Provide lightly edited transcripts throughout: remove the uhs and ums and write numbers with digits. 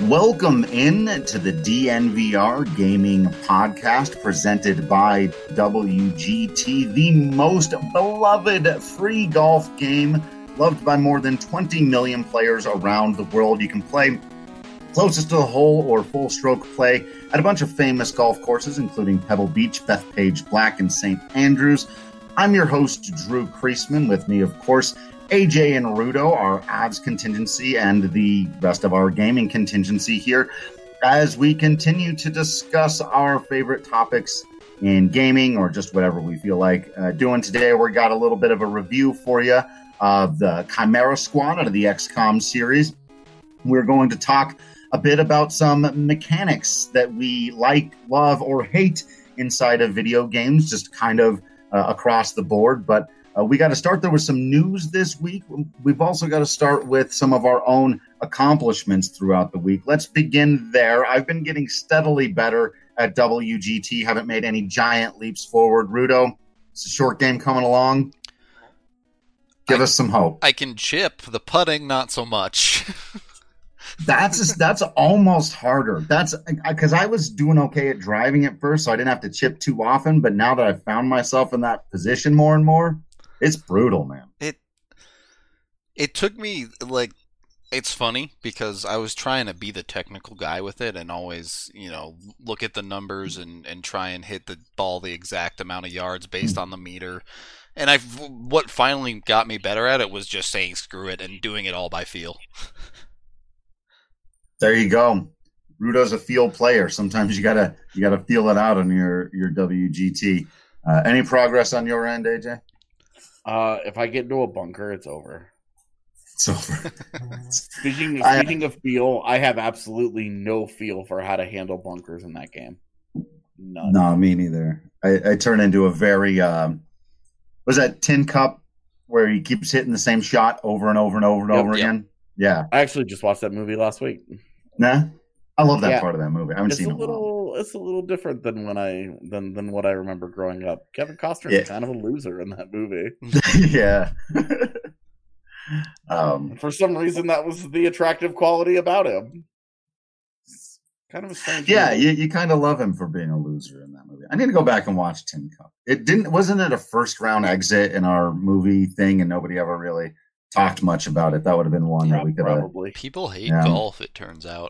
Welcome in to the DNVR Gaming Podcast presented by WGT, the most beloved free golf game loved by more than 20 million players around the world. You can play closest to the hole or full stroke play at a bunch of famous golf courses, including Pebble Beach, Bethpage Black, and St. Andrews. I'm your host, Drew Kreisman. With me, of course, AJ and Rudo, our Avs contingency, and the rest of our gaming contingency here as we continue to discuss our favorite topics in gaming or just whatever we feel like doing today. We got a little bit of a review for you of the Chimera Squad out of the XCOM series. We're going to talk a bit about some mechanics that we like, love, or hate inside of video games, just kind of across the board. But we got to start there with some news this week. We've also got to start with some of our own accomplishments throughout the week. Let's begin there. I've been getting steadily better at WGT. Haven't made any giant leaps forward. Rudo, it's a short game coming along. Give us some hope. I can chip. The putting, not so much. That's almost harder. That's because I was doing okay at driving at first, so I didn't have to chip too often. But now that I've found myself in that position more and more, it's brutal, man. It took me, it's funny because I was trying to be the technical guy with it and always, look at the numbers and try and hit the ball the exact amount of yards based on the meter. And what finally got me better at it was just saying screw it and doing it all by feel. There you go. Rudo's a feel player. Sometimes you gotta feel it out on your WGT. Any progress on your end, AJ? If I get into a bunker, it's over. It's over. Speaking of feel, I have absolutely no feel for how to handle bunkers in that game. None. No, me neither. I turn into a very was that Tin Cup where he keeps hitting the same shot over and over and over and over again? Yeah. I actually just watched that movie last week. Nah? I love that part of that movie. I haven't seen it. It's a little different than than what I remember growing up. Kevin Costner is kind of a loser in that movie. Yeah. For some reason, that was the attractive quality about him. It's kind of a strange movie. You kind of love him for being a loser in that movie. I need to go back and watch Tin Cup. Wasn't it a first round exit in our movie thing, and nobody ever really talked much about it? That would have been one that we could probably. People hate golf, it turns out.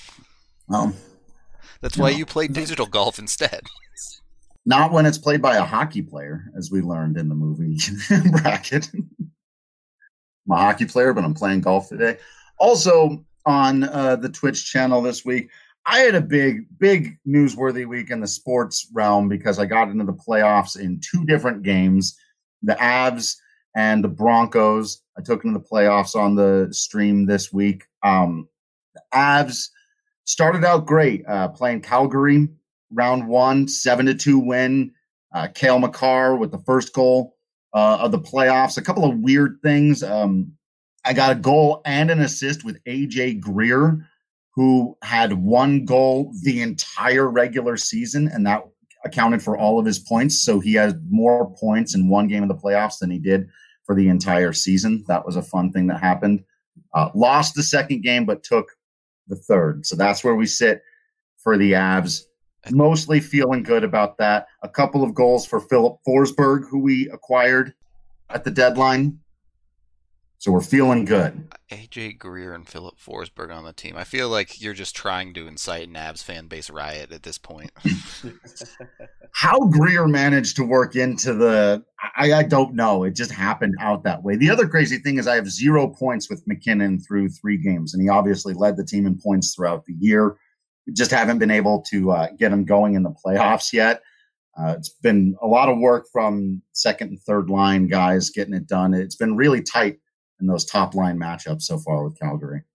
That's why you play digital golf instead. Not when it's played by a hockey player, as we learned in the movie bracket. I'm a hockey player, but I'm playing golf today. Also on the Twitch channel this week, I had a big newsworthy week in the sports realm because I got into the playoffs in two different games. The Avs and the Broncos. I took into the playoffs on the stream this week. The Avs started out great, playing Calgary, round one, 7-2 win. Cale Makar with the first goal of the playoffs. A couple of weird things. I got a goal and an assist with AJ Greer, who had one goal the entire regular season, and that accounted for all of his points. So he has more points in one game of the playoffs than he did for the entire season. That was a fun thing that happened. Lost the second game, but took the third. So that's where we sit for the Avs. Mostly feeling good about that. A couple of goals for Philip Forsberg, who we acquired at the deadline. So we're feeling good. AJ Greer and Philip Forsberg on the team. I feel like you're just trying to incite an Avs fan base riot at this point. How Greer managed to work into I don't know. It just happened out that way. The other crazy thing is I have 0 points with McKinnon through 3 games, and he obviously led the team in points throughout the year. We just haven't been able to get him going in the playoffs yet. It's been a lot of work from second and third line guys getting it done. It's been really tight in those top line matchups so far with Calgary.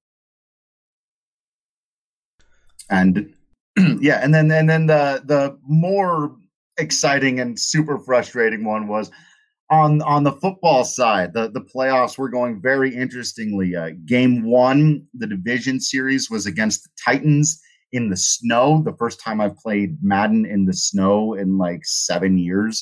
And and then the more exciting and super frustrating one was on the football side. The playoffs were going very interestingly. Game 1, the division series, was against the Titans in the snow. The first time I've played Madden in the snow in like 7 years.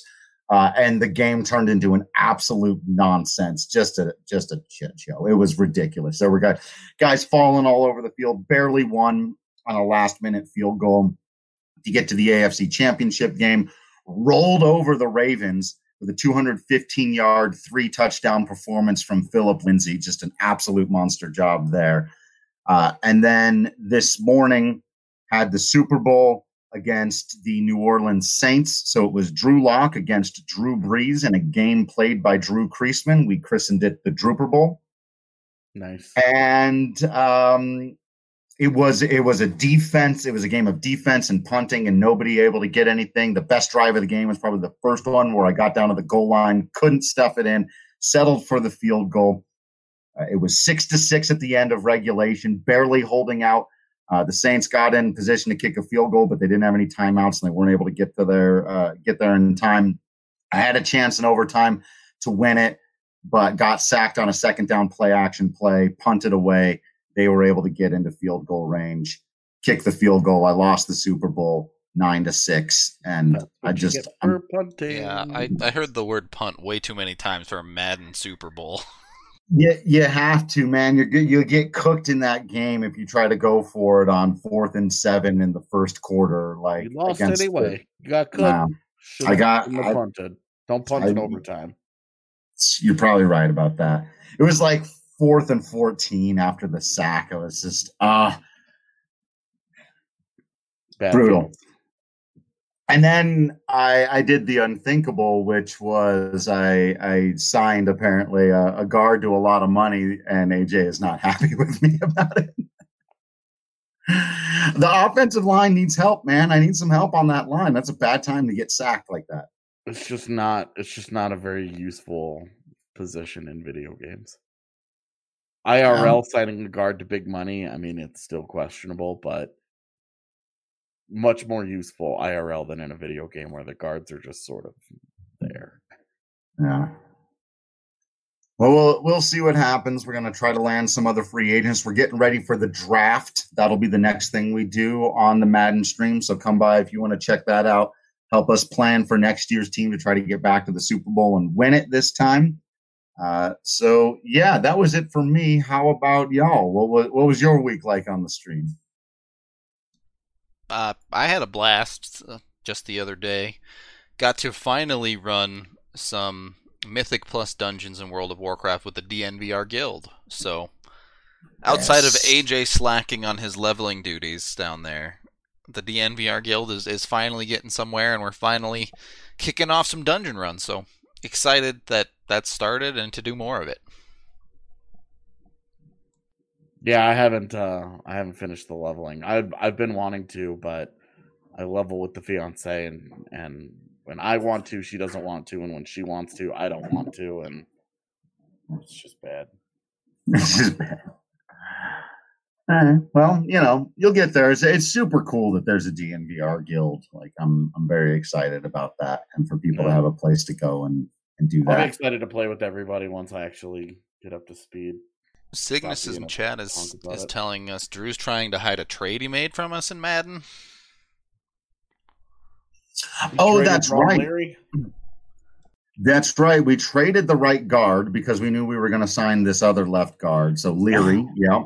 And the game turned into an absolute nonsense, just a shit show. It was ridiculous. There were guys falling all over the field, barely won on a last-minute field goal to get to the AFC Championship game, rolled over the Ravens with a 215-yard, 3-touchdown performance from Philip Lindsay. Just an absolute monster job there. And then this morning had the Super Bowl against the New Orleans Saints. So it was Drew Lock against Drew Brees in a game played by Drew Kreisman. We christened it the Drooper Bowl. Nice. And it was a defense. It was a game of defense and punting, and nobody able to get anything. The best drive of the game was probably the first one where I got down to the goal line, couldn't stuff it in, settled for the field goal. It was 6-6 at the end of regulation, barely holding out. The Saints got in position to kick a field goal, but they didn't have any timeouts, and they weren't able to get there in time. I had a chance in overtime to win it, but got sacked on a second down play action play, punted away. They were able to get into field goal range, kick the field goal. I lost the Super Bowl 9-6, and I just I heard the word punt way too many times for a Madden Super Bowl. Yeah, you have to, man. You'll get cooked in that game if you try to go for it on 4th and 7 in the first quarter. Like you lost anyway. You got cooked. Punted. Don't punt in overtime. You're probably right about that. It was like 4th and 14 after the sack. It was just brutal. Feelings. And then I did the unthinkable, which was I signed apparently a guard to a lot of money, and AJ is not happy with me about it. The offensive line needs help, man. I need some help on that line. That's a bad time to get sacked like that. It's just not a very useful position in video games. IRL signing a guard to big money, I mean, it's still questionable, but much more useful IRL than in a video game where the guards are just sort of there. Yeah. Well, we'll see what happens. We're going to try to land some other free agents. We're getting ready for the draft. That'll be the next thing we do on the Madden stream. So come by if you want to check that out. Help us plan for next year's team to try to get back to the Super Bowl and win it this time. So yeah, that was it for me. How about y'all? What was your week like on the stream? I had a blast just the other day. Got to finally run some Mythic Plus dungeons in World of Warcraft with the DNVR guild. So, outside of AJ slacking on his leveling duties down there, the DNVR guild is finally getting somewhere, and we're finally kicking off some dungeon runs. So, excited that started and to do more of it. Yeah, I haven't finished the leveling. I've been wanting to, but I level with the fiance, and when I want to, she doesn't want to, and when she wants to, I don't want to, and it's just bad. It's just bad. Well, you'll get there. It's super cool that there's a DNVR guild. Like I'm very excited about that, and for people to have a place to go and do that. I'm excited to play with everybody once I actually get up to speed. Cygnus in chat is telling us Drew's trying to hide a trade he made from us in Madden. Oh, that's right. Larry? That's right. We traded the right guard because we knew we were going to sign this other left guard. So Leary,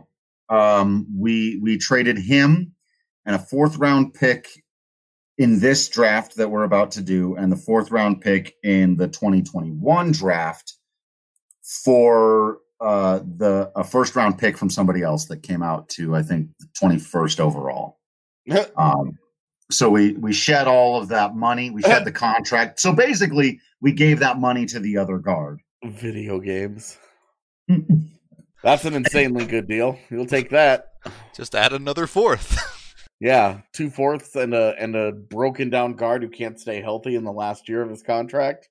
we traded him and a 4th-round pick in this draft that we're about to do, and the 4th-round pick in the 2021 draft for a 1st-round pick from somebody else that came out to, I think, 21st overall. So we shed all of that money. We shed the contract. So basically, we gave that money to the other guard. Video games. That's an insanely good deal. You'll take that. Just add another 4th. Yeah, 2 4ths and a broken down guard who can't stay healthy in the last year of his contract.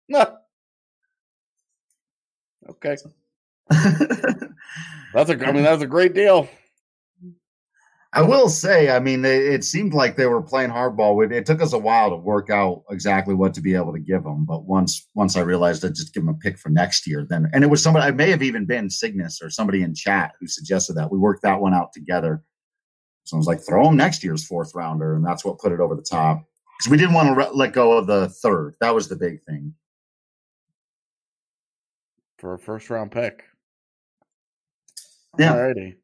Okay. That's a great deal. I will say, it seemed like they were playing hardball. It took us a while to work out exactly what to be able to give them. But once I realized I'd just give them a pick for next year, and it was somebody, it may have even been Cygnus or somebody in chat who suggested that. We worked that one out together. So I was like, throw him next year's 4th rounder. And that's what put it over the top. Because we didn't want to let go of the 3rd. That was the big thing. for a first round pick. Yeah. Alrighty.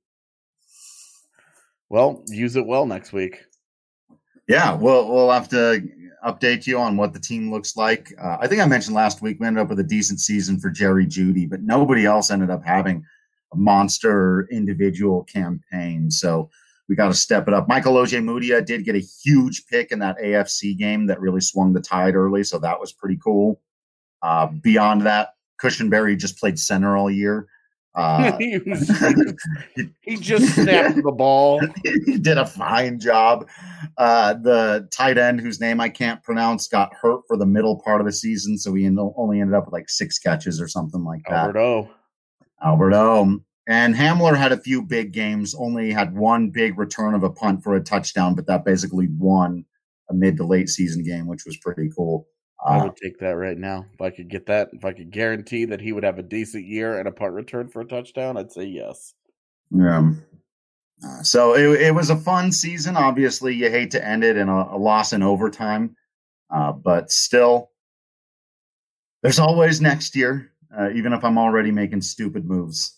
Well, use it well next week. Yeah, we'll have to update you on what the team looks like. I think I mentioned last week we ended up with a decent season for Jerry Jeudy, but nobody else ended up having a monster individual campaign. So we got to step it up. Michael Ojemudia did get a huge pick in that AFC game that really swung the tide early, so that was pretty cool. Beyond that, Cushenberry just played center all year. He just snapped the ball. He did a fine job. The tight end, whose name I can't pronounce, got hurt for the middle part of the season, so he only ended up with like 6 catches or something like that. Albert O. And Hamler had a few big games, only had one big return of a punt for a touchdown, but that basically won a mid to late season game, which was pretty cool. I would take that right now. If I could get that, if I could guarantee that he would have a decent year and a punt return for a touchdown, I'd say yes. Yeah. So it was a fun season. Obviously, you hate to end it in a loss in overtime, but still, there's always next year, even if I'm already making stupid moves.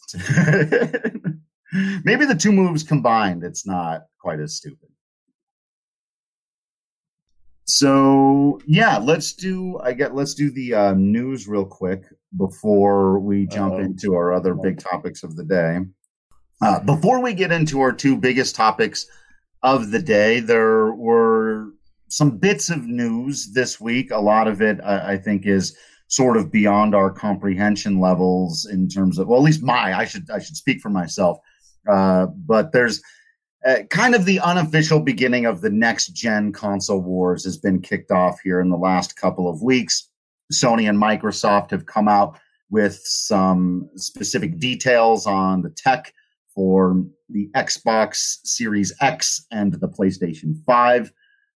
Maybe the 2 moves combined, it's not quite as stupid. So yeah, let's do the news real quick before we jump into our other big topics of the day. Before we get into our 2 biggest topics of the day, there were some bits of news this week. A lot of it, I think, is sort of beyond our comprehension levels in terms of, well, at least I should speak for myself. But there's kind of the unofficial beginning of the next-gen console wars has been kicked off here in the last couple of weeks. Sony and Microsoft have come out with some specific details on the tech for the Xbox Series X and the PlayStation 5.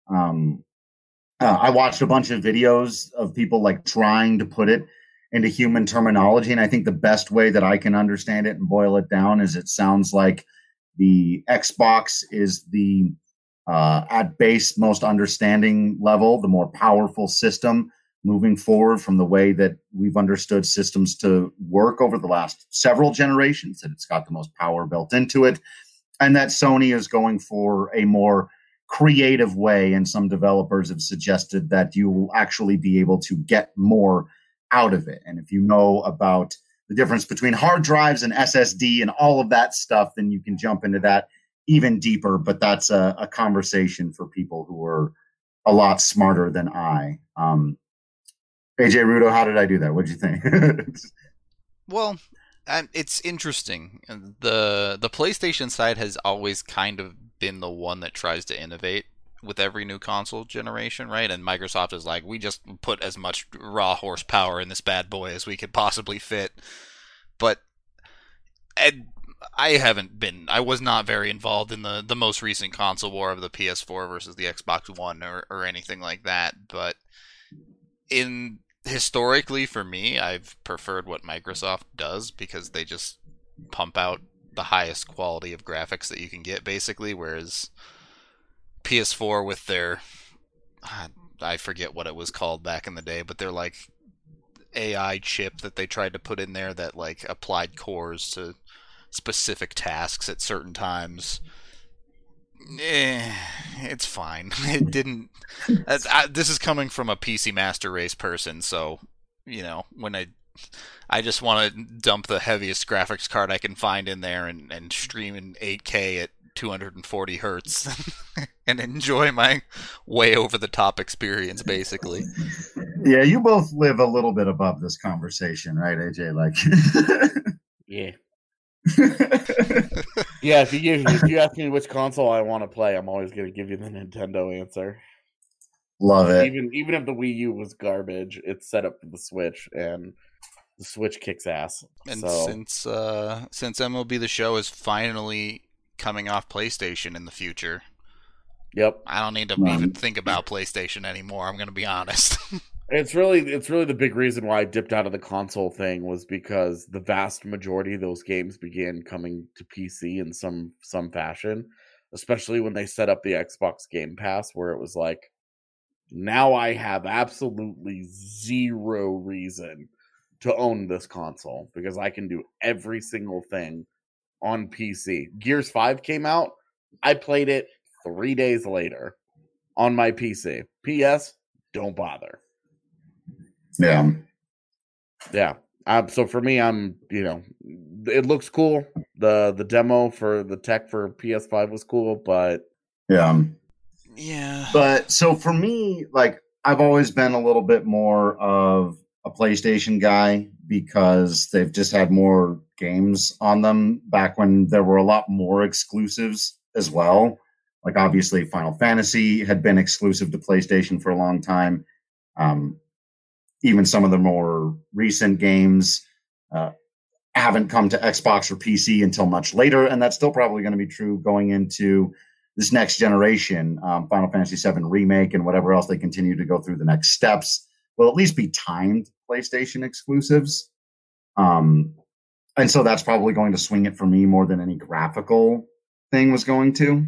I watched a bunch of videos of people like trying to put it into human terminology, and I think the best way that I can understand it and boil it down is it sounds like the Xbox is the at base most understanding level, the more powerful system moving forward from the way that we've understood systems to work over the last several generations, that it's got the most power built into it, and that Sony is going for a more creative way, and some developers have suggested that you will actually be able to get more out of it. And if you know about the difference between hard drives and SSD and all of that stuff, then you can jump into that even deeper. But that's a conversation for people who are a lot smarter than I. AJ Rudo, how did I do that? What'd you think? Well, it's interesting. The PlayStation side has always kind of been the one that tries to innovate with every new console generation, right? And Microsoft is like, we just put as much raw horsepower in this bad boy as we could possibly fit. But I was not very involved in the most recent console war of the PS4 versus the Xbox One or anything like that. But historically for me, I've preferred what Microsoft does because they just pump out the highest quality of graphics that you can get, basically, whereas PS4 with their, I forget what it was called back in the day, but they're like AI chip that they tried to put in there that like applied cores to specific tasks at certain times. It's fine. It didn't. This is coming from a PC Master Race person, so when I just want to dump the heaviest graphics card I can find in there and stream in 8K at 240 hertz and enjoy my way over the top experience, basically. Yeah, you both live a little bit above this conversation, right, AJ? Like, yeah. Yeah, if you ask me which console I want to play, I'm always going to give you the Nintendo answer. Love it. Even if the Wii U was garbage, it's set up for the Switch, and the Switch kicks ass. And since MLB The Show is finally coming off PlayStation in the future, yep, I don't need to even think about PlayStation anymore. I'm going to be honest. It's really the big reason why I dipped out of the console thing was because the vast majority of those games began coming to PC in some fashion, especially when they set up the Xbox Game Pass, where it was like, now I have absolutely zero reason to own this console because I can do every single thing on PC. Gears 5 came out. I played it 3 days later on my PC. PS, don't bother. Yeah. Yeah. So for me, it looks cool. The demo for the tech for PS5 was cool, but yeah. Yeah. But so for me, like, I've always been a little bit more of a PlayStation guy because they've just had more games on them back when there were a lot more exclusives as well. Like, obviously, Final Fantasy had been exclusive to PlayStation for a long time. Even some of the more recent games haven't come to Xbox or PC until much later, and that's still probably going to be true going into this next generation. Final Fantasy VII Remake and whatever else they continue to go through the next steps will at least be timed PlayStation exclusives. And so that's probably going to swing it for me more than any graphical thing was going to.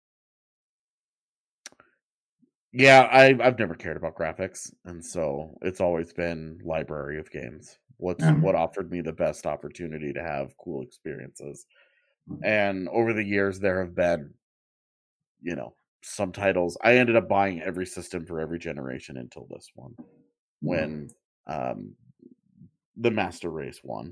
Yeah, I've never cared about graphics, and so it's always been library of games. What offered me the best opportunity to have cool experiences. And over the years, there have been, some titles. I ended up buying every system for every generation until this one, when the Master Race won.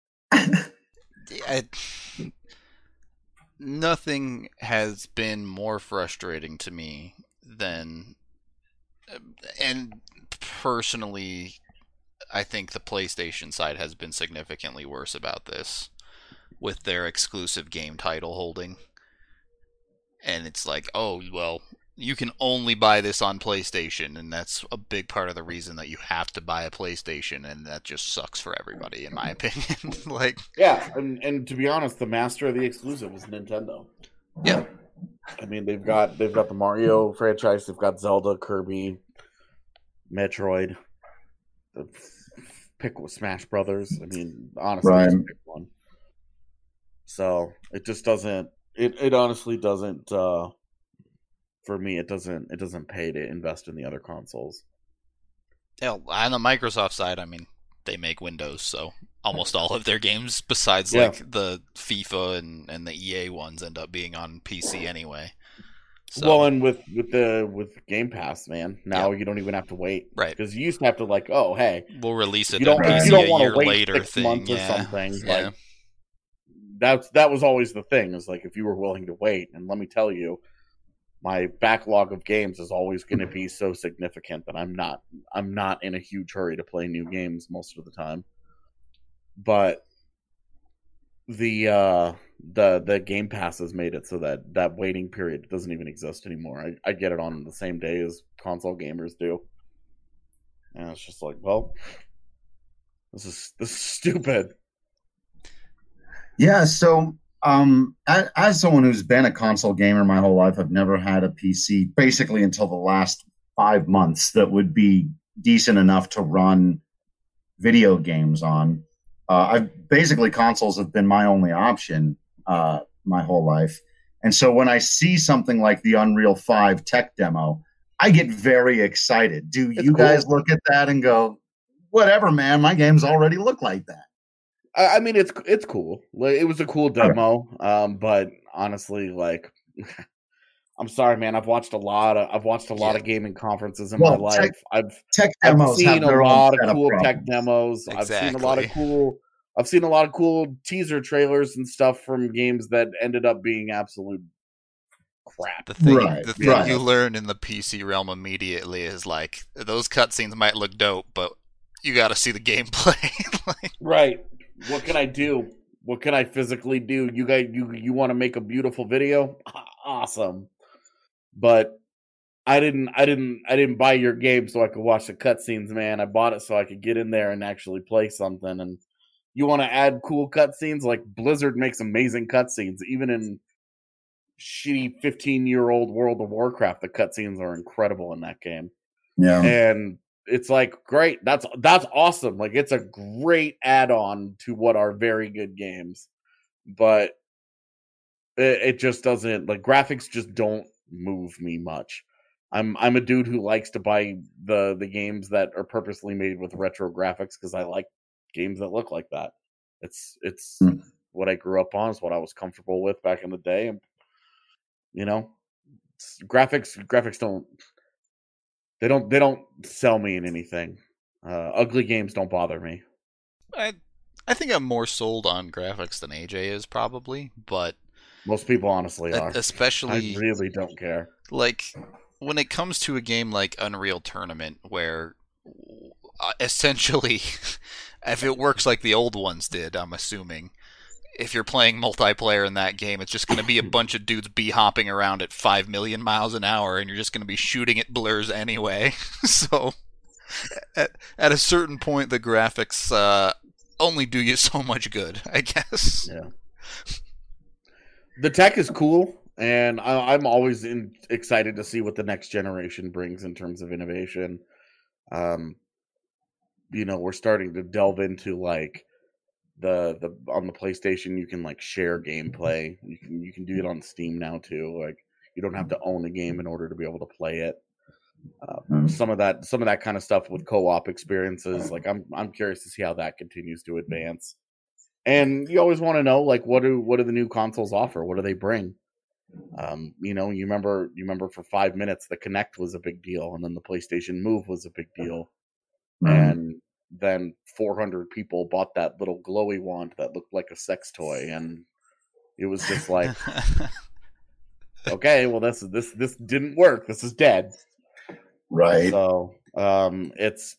Nothing has been more frustrating to me than, and personally, I think the PlayStation side has been significantly worse about this with their exclusive game title holding. And it's like, oh, well, you can only buy this on PlayStation, and that's a big part of the reason that you have to buy a PlayStation, and that just sucks for everybody, in my opinion. Yeah, and to be honest, the master of the exclusive is Nintendo. Yeah. I mean, they've got the Mario franchise, they've got Zelda, Kirby, Metroid. Pick with Smash Brothers. I mean, honestly, right. Just pick one. So it just doesn't. It honestly doesn't. For me, it doesn't pay to invest in the other consoles. Yeah, on the Microsoft side, I mean, they make Windows, so almost all of their games, besides like the FIFA and the EA ones, end up being on PC anyway. So, well, and with Game Pass, man, now you don't even have to wait, right? Because you used to have to like, oh, hey, we'll release it. You don't a year wait later 6 months or something. Yeah. Like, that was always the thing. Is like if you were willing to wait, and let me tell you, my backlog of games is always going to be so significant that I'm not in a huge hurry to play new games most of the time. But the Game Pass has made it so that waiting period doesn't even exist anymore. I get it on the same day as console gamers do, and it's just like, well, this is stupid. Yeah, so as someone who's been a console gamer my whole life, I've never had a PC basically until the last 5 months that would be decent enough to run video games on. Consoles have been my only option my whole life. And so when I see something like the Unreal 5 tech demo, I get very excited. Do you guys look at that and go, whatever, man, my games already look like that? I mean, it's cool. It was a cool demo, but honestly, like, I'm sorry, man. I've watched a lot of gaming conferences in my life. I've seen a lot of cool tech demos. Exactly. I've seen a lot of cool teaser trailers and stuff from games that ended up being absolute crap. The thing you learn in the PC realm immediately is like those cutscenes might look dope, but you got to see the gameplay. Right. What can I do? What can I physically do? You guys, you want to make a beautiful video? Awesome. But I didn't buy your game so I could watch the cutscenes, man. I bought it so I could get in there and actually play something. And you want to add cool cutscenes? Like Blizzard makes amazing cutscenes, even in shitty 15-year-old World of Warcraft. The cutscenes are incredible in that game. Yeah, and it's like, great. That's awesome. Like, it's a great add-on to what are very good games, but it just doesn't, like, graphics just don't move me much. I'm a dude who likes to buy the games that are purposely made with retro graphics because I like games that look like that. It's Hmm. what I grew up on. It's what I was comfortable with back in the day. And, graphics don't sell me in anything. Ugly games don't bother me. I think I'm more sold on graphics than AJ is probably, but Most people honestly are. especially I really don't care. like when it comes to a game like Unreal Tournament, where essentially, if it works like the old ones did, I'm assuming, if you're playing multiplayer in that game, it's just going to be a bunch of dudes hopping around at 5 million miles an hour, and you're just going to be shooting at blurs anyway. So, at a certain point, the graphics only do you so much good, I guess. Yeah. The tech is cool, and I'm always excited to see what the next generation brings in terms of innovation. We're starting to delve into like the on the PlayStation, you can like share gameplay. You can do it on Steam now too. Like you don't have to own a game in order to be able to play it. Some of that kind of stuff with co-op experiences. Like I'm curious to see how that continues to advance. And you always want to know, like, what do the new consoles offer? What do they bring? You remember for 5 minutes the Kinect was a big deal, and then the PlayStation Move was a big deal, and then 400 people bought that little glowy wand that looked like a sex toy, and it was just like, okay, well this didn't work. This is dead. Right. So it's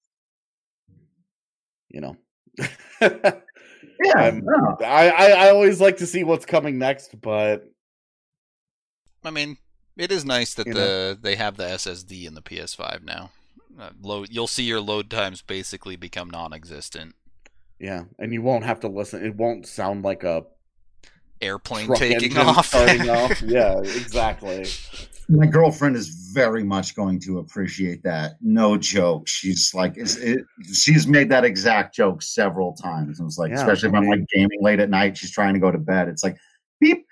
Yeah, I always like to see what's coming next, but I mean, it is nice that they have the SSD in the PS5 now. You'll see your load times basically become non-existent. Yeah, and you won't have to listen. It won't sound like a airplane taking off. Starting off. Yeah, exactly. My girlfriend is very much going to appreciate that. No joke. She's like, she's made that exact joke several times. And it's like, especially if I'm like gaming late at night, she's trying to go to bed. It's like, beep.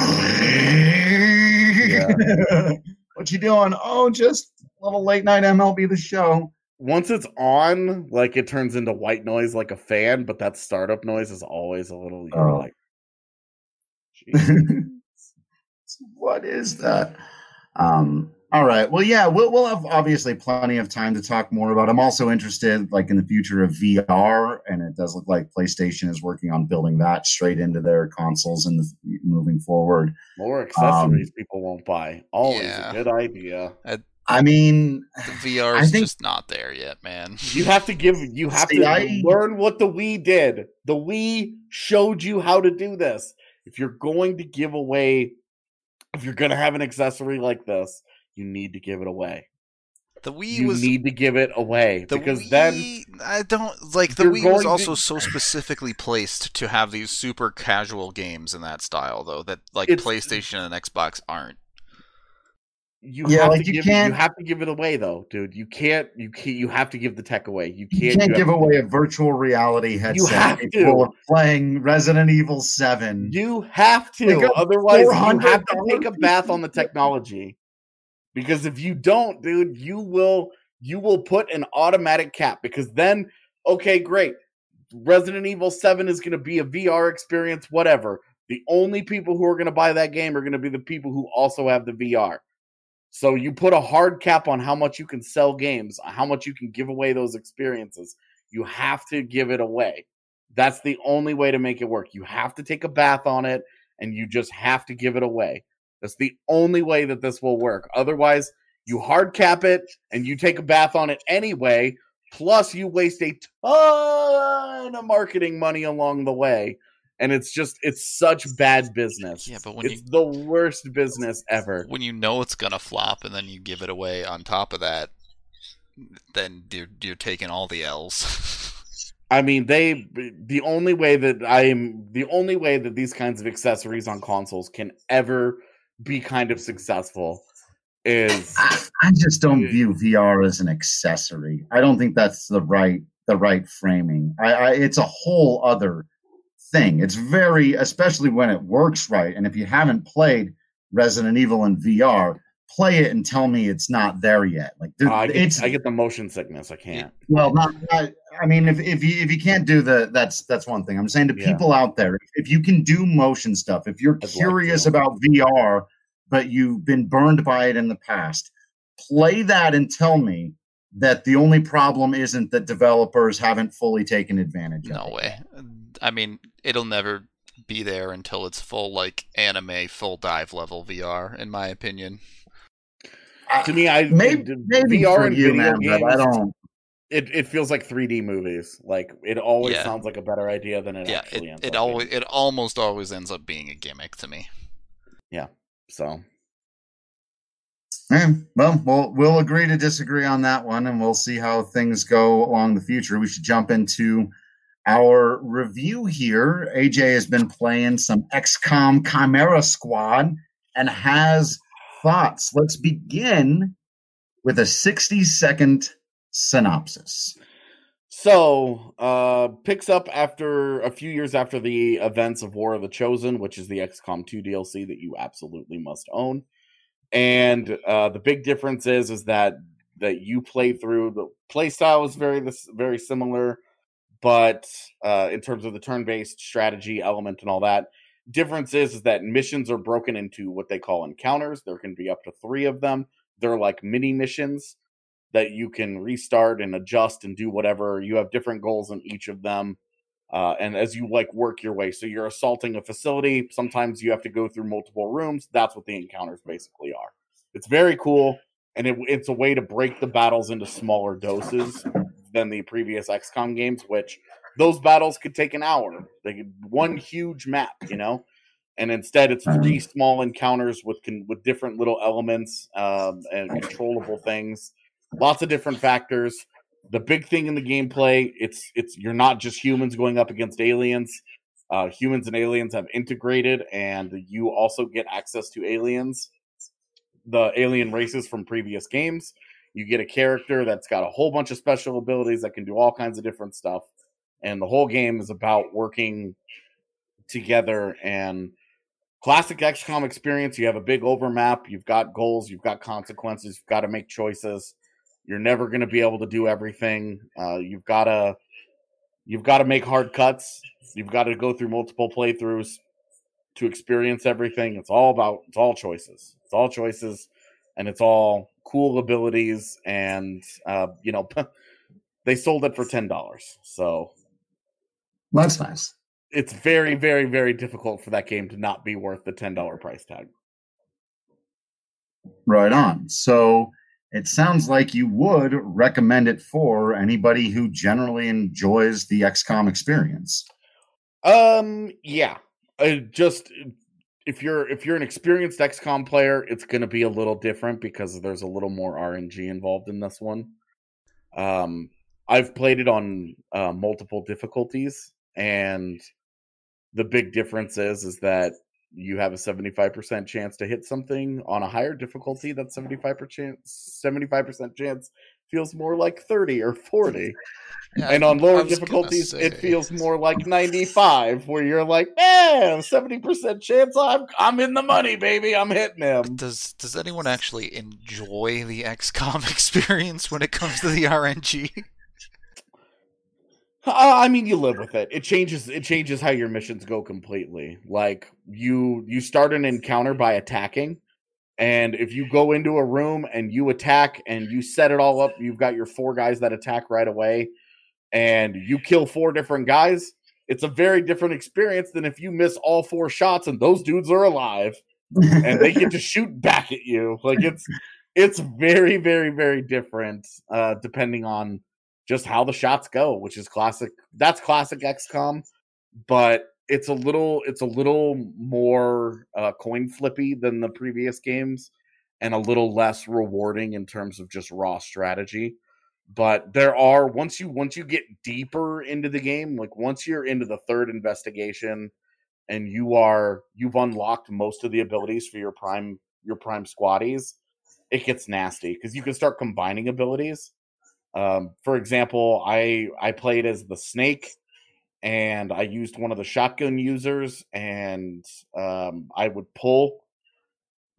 Yeah. What you doing? Oh, just a little late night MLB The Show. Once it's on, like it turns into white noise like a fan, but that startup noise is always a little. You're like, what is that? All right. Well, yeah, we'll have obviously plenty of time to talk more about it. I'm also interested, like, in the future of VR, and it does look like PlayStation is working on building that straight into their consoles and moving forward. More accessories people won't buy. Always a good idea. I mean, the VR is just not there yet, man. You have to learn what the Wii did. The Wii showed you how to do this. If you're going to give away, if you're going to have an accessory like this, you need to give it away. The Wii need to give it away because Wii, then I don't like the Wii was also so specifically placed to have these super casual games in that style, though, that like PlayStation and Xbox aren't. You have to give it away, though, dude. You can't. You have to give the tech away. You can't give away a virtual reality headset. You have to playing Resident Evil 7. You have to. Otherwise, you have to take a bath on the technology. Because if you don't, dude, you will put an automatic cap. Because then, okay, great. Resident Evil 7 is going to be a VR experience, whatever. The only people who are going to buy that game are going to be the people who also have the VR. So you put a hard cap on how much you can sell games, how much you can give away those experiences. You have to give it away. That's the only way to make it work. You have to take a bath on it, and you just have to give it away. That's the only way that this will work. Otherwise, you hard cap it, and you take a bath on it anyway, plus you waste a ton of marketing money along the way. And it's such bad business. Yeah, but it's the worst business ever. When you know it's gonna flop and then you give it away on top of that, then you're taking all the L's. I mean, the only way that these kinds of accessories on consoles can ever be kind of successful is I just don't view VR as an accessory. I don't think that's the right framing. It's a whole other thing. It's very, especially when it works right. And if you haven't played Resident Evil in VR, play it and tell me it's not there yet. Like I get the motion sickness. I can't. Well, I mean, if you can't do that's one thing. I'm saying to people out there, if you can do motion stuff, if you're curious about VR, but you've been burned by it in the past, play that and tell me that the only problem isn't that developers haven't fully taken advantage of it. No way. I mean, it'll never be there until it's full, like, anime, full dive level VR, in my opinion. To me, maybe VR for and you, video man, games, but I don't. It feels like 3D movies. Like, it always sounds like a better idea than it actually ends up being. It almost always ends up being a gimmick to me. Yeah, so... Well, we'll agree to disagree on that one, and we'll see how things go along the future. We should jump into our review here. AJ has been playing some XCOM Chimera Squad and has thoughts. Let's begin with a 60-second synopsis. So, picks up after a few years after the events of War of the Chosen, which is the XCOM 2 DLC that you absolutely must own. And the big difference is that you play through, the play style is very similar, but in terms of the turn-based strategy element and all that, difference is that missions are broken into what they call encounters. There can be up to 3 of them. They're like mini missions that you can restart and adjust and do whatever. You have different goals in each of them. And as you work your way, so you're assaulting a facility. Sometimes you have to go through multiple rooms. That's what the encounters basically are. It's very cool, and it's a way to break the battles into smaller doses than the previous XCOM games, which those battles could take an hour. They could one huge map, and instead it's 3 small encounters with different little elements and controllable things. Lots of different factors. The big thing in the gameplay, it's you're not just humans going up against aliens. Humans and aliens have integrated, and you also get access to aliens, the alien races from previous games. You get a character that's got a whole bunch of special abilities that can do all kinds of different stuff, and the whole game is about working together. And classic XCOM experience, you have a big overmap, you've got goals, you've got consequences, you've got to make choices. You're never going to be able to do everything. You've got to make hard cuts. You've got to go through multiple playthroughs to experience everything. It's all choices. It's all choices, and it's all cool abilities. And they sold it for $10. So that's nice. It's very, very, very difficult for that game to not be worth the $10 price tag. Right on. So it sounds like you would recommend it for anybody who generally enjoys the XCOM experience. Yeah. Just if you're an experienced XCOM player, it's going to be a little different because there's a little more RNG involved in this one. I've played it on multiple difficulties, and the big difference is that you have a 75% chance to hit something on a higher difficulty. That 75% chance feels more like 30 or 40. Yeah, and on lower difficulties, it feels more like 95, where you're like, man, 70% chance I'm in the money, baby. I'm hitting him. Does anyone actually enjoy the XCOM experience when it comes to the RNG? I mean, you live with it. It changes how your missions go completely. Like, you start an encounter by attacking, and if you go into a room and you attack and you set it all up, you've got your 4 guys that attack right away, and you kill 4 different guys. It's a very different experience than if you miss all 4 shots and those dudes are alive and they get to shoot back at you. Like, it's very, very, very different depending on just how the shots go, which is classic. That's classic XCOM, but it's a little more coin flippy than the previous games, and a little less rewarding in terms of just raw strategy. But there are, once you get deeper into the game, like once you're into the 3rd investigation and you've unlocked most of the abilities for your prime squaddies, it gets nasty because you can start combining abilities. For example, I played as the Snake, and I used one of the shotgun users, and I would pull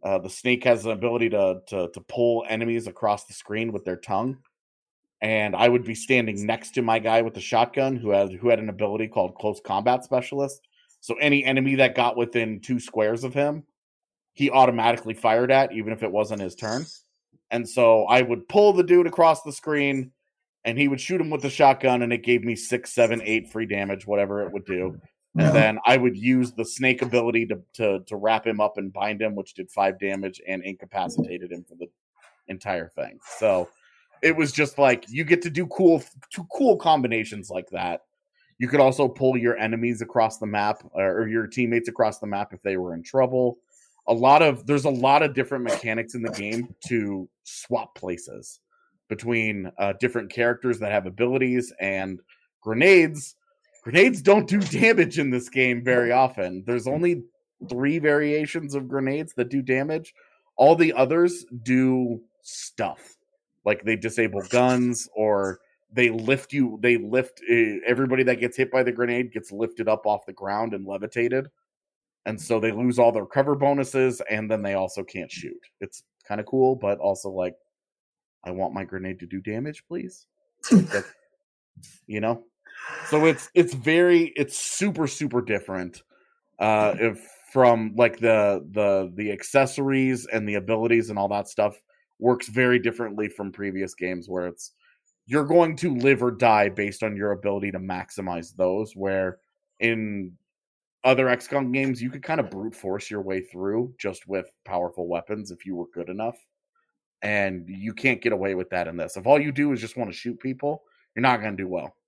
The snake has an ability to pull enemies across the screen with their tongue. And I would be standing next to my guy with the shotgun who had an ability called Close Combat Specialist. So any enemy that got within 2 squares of him, he automatically fired at, even if it wasn't his turn. And so I would pull the dude across the screen, and he would shoot him with the shotgun, and it gave me 6, 7, 8 free damage, whatever it would do. And then I would use the snake ability to wrap him up and bind him, which did 5 damage and incapacitated him for the entire thing. So it was just like you get to do cool combinations like that. You could also pull your enemies across the map or your teammates across the map if they were in trouble. There's a lot of different mechanics in the game to swap places between different characters that have abilities and grenades. Grenades don't do damage in this game very often. There's only 3 variations of grenades that do damage. All the others do stuff. Like they disable guns, or they lift everybody that gets hit by the grenade gets lifted up off the ground and levitated. And so they lose all their cover bonuses, and then they also can't shoot. It's kind of cool, but also like, I want my grenade to do damage, please. You know? So it's super, super different. From like the accessories and the abilities and all that stuff works very differently from previous games where you're going to live or die based on your ability to maximize those, where in other XCOM games you could kind of brute force your way through just with powerful weapons if you were good enough. And you can't get away with that in this. If all you do is just want to shoot people, you're not going to do well.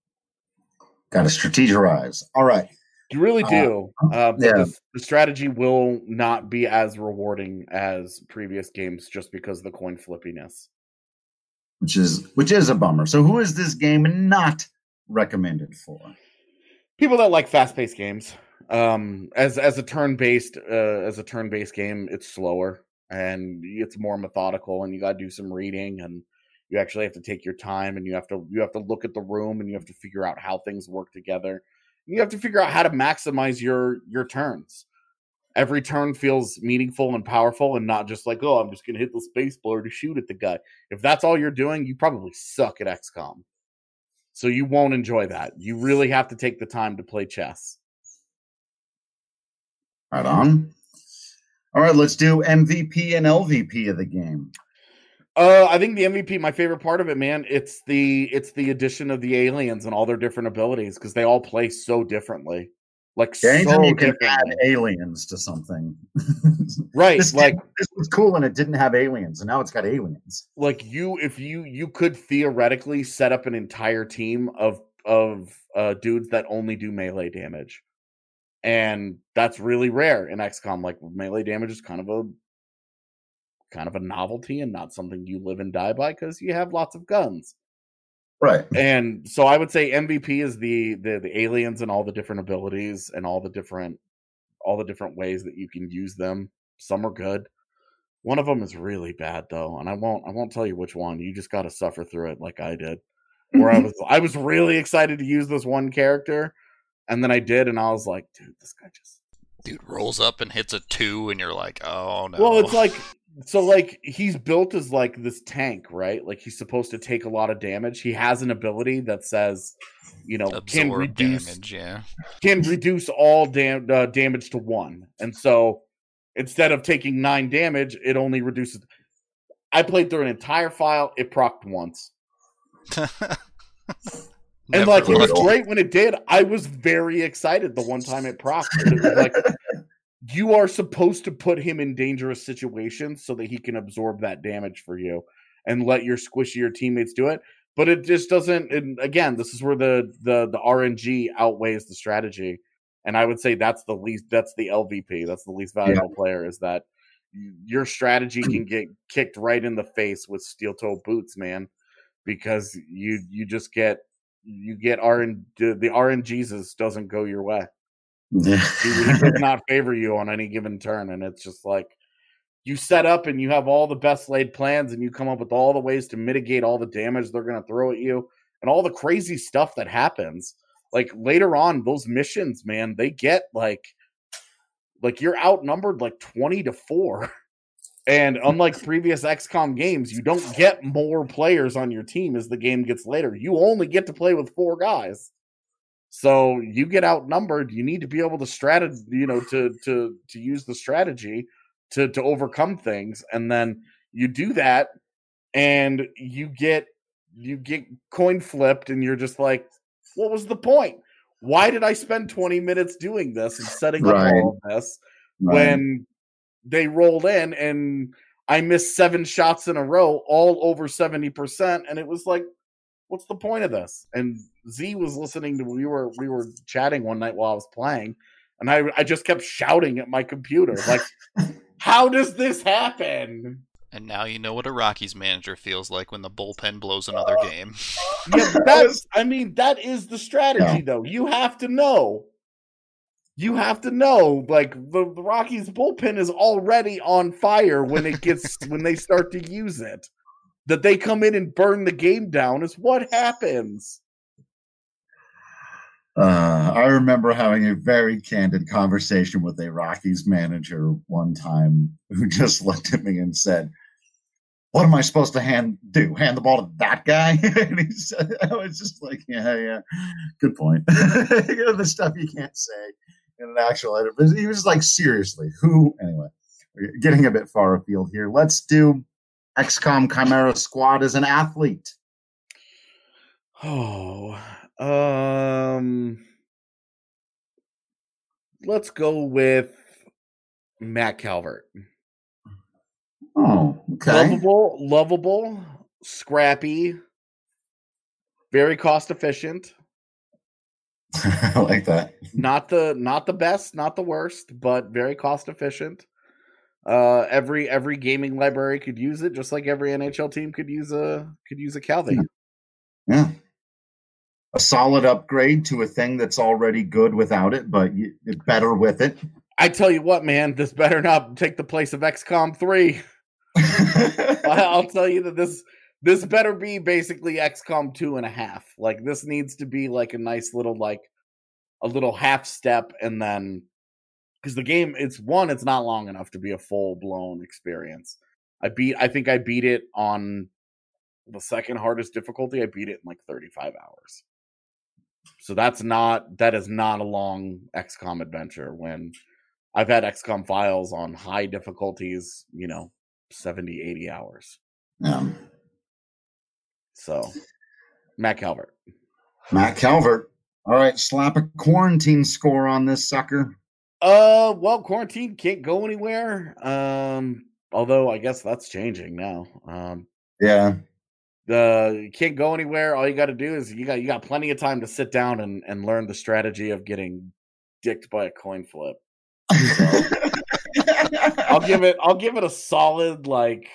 Got to strategize. All right. You really do. But the strategy will not be as rewarding as previous games just because of the coin flippiness. Which is a bummer. So who is this game not recommended for? People that like fast-paced games. As a turn-based game, it's slower and it's more methodical, and you got to do some reading, and you actually have to take your time, and you have to look at the room, and you have to figure out how things work together. You have to figure out how to maximize your turns. Every turn feels meaningful and powerful, and not just like, oh, I'm just going to hit the space bar to shoot at the guy. If that's all you're doing, you probably suck at XCOM. So you won't enjoy that. You really have to take the time to play chess. Right on. All right, let's do MVP and LVP of the game. I think the MVP, my favorite part of it, man, it's the addition of the aliens and all their different abilities, because they all play so differently. Like, anytime so you can differently. add aliens to something. Right. This was cool and it didn't have aliens, and now it's got aliens. Like you could theoretically set up an entire team of dudes that only do melee damage. And that's really rare in XCOM. Like, melee damage is kind of a novelty and not something you live and die by because you have lots of guns. Right. And so I would say MVP is the aliens and all the different abilities and all the different ways that you can use them. Some are good. One of them is really bad though, and I won't tell you which one. You just got to suffer through it like I did. Where I was really excited to use this one character, and then I did, and I was like, dude, this guy just rolls up and hits a 2, and you're like, oh no. Well, it's like, so like he's built as like this tank, right? Like he's supposed to take a lot of damage. He has an ability that says, can reduce all damage to 1. And so instead of taking 9 damage, it only reduces. I played through an entire file. It procced once. And like, it was great when it did. I was very excited the one time it procced. It was like, you are supposed to put him in dangerous situations so that he can absorb that damage for you and let your squishier teammates do it. But it just doesn't. And again, this is where the RNG outweighs the strategy. And I would say that's the LVP. That's the least valuable player, is that your strategy can get kicked right in the face with steel toe boots, man, because you just get the RNGesus doesn't go your way. He does not favor you on any given turn, and it's just like you set up and you have all the best laid plans, and you come up with all the ways to mitigate all the damage they're going to throw at you and all the crazy stuff that happens. Like later on, those missions, man, they get like you're outnumbered like 20-4. And unlike previous XCOM games, you don't get more players on your team as the game gets later. You only get to play with 4 guys. So you get outnumbered. You need to be able to to use the strategy to overcome things. And then you do that and you get coin flipped and you're just like, what was the point? Why did I spend 20 minutes doing this and setting up all of this when they rolled in and I missed 7 shots in a row, all over 70%, and it was like, what's the point of this? And Z was listening to we were chatting one night while I was playing, and I just kept shouting at my computer, like, how does this happen? And now you know what a Rockies manager feels like when the bullpen blows another game. Yeah, that is the strategy, though. You have to know. Like the Rockies bullpen is already on fire when they start to use it. That they come in and burn the game down is what happens. I remember having a very candid conversation with a Rockies manager one time who just looked at me and said, "What am I supposed to hand the ball to that guy?" And he said, I was just like, yeah, good point. The stuff you can't say in an actual edit. But he was like, seriously, who? Anyway, we're getting a bit far afield here. Let's do XCOM Chimera Squad as an athlete. Let's go with Matt Calvert. Oh, okay. Lovable, scrappy, very cost efficient. I like that. Not the best, not the worst, but very cost efficient. Every gaming library could use it, just like every NHL team could use a Calvi. Yeah. A solid upgrade to a thing that's already good without it, but it's better with it. I tell you what, man, this better not take the place of XCOM 3. I'll tell you that this better be basically XCOM 2.5. Like, this needs to be like a nice little, like a little half step, and then because the game, it's not long enough to be a full blown experience. I think I beat it on the second hardest difficulty. I beat it in like 35 hours. So that is not a long XCOM adventure when I've had XCOM files on high difficulties, 70, 80 hours. Yeah. So, Matt Calvert. All right, slap a quarantine score on this sucker. Well, quarantine can't go anywhere. Although I guess that's changing now. Yeah. You can't go anywhere. All you got to do is you got plenty of time to sit down and learn the strategy of getting dicked by a coin flip. So, I'll give it a solid 8.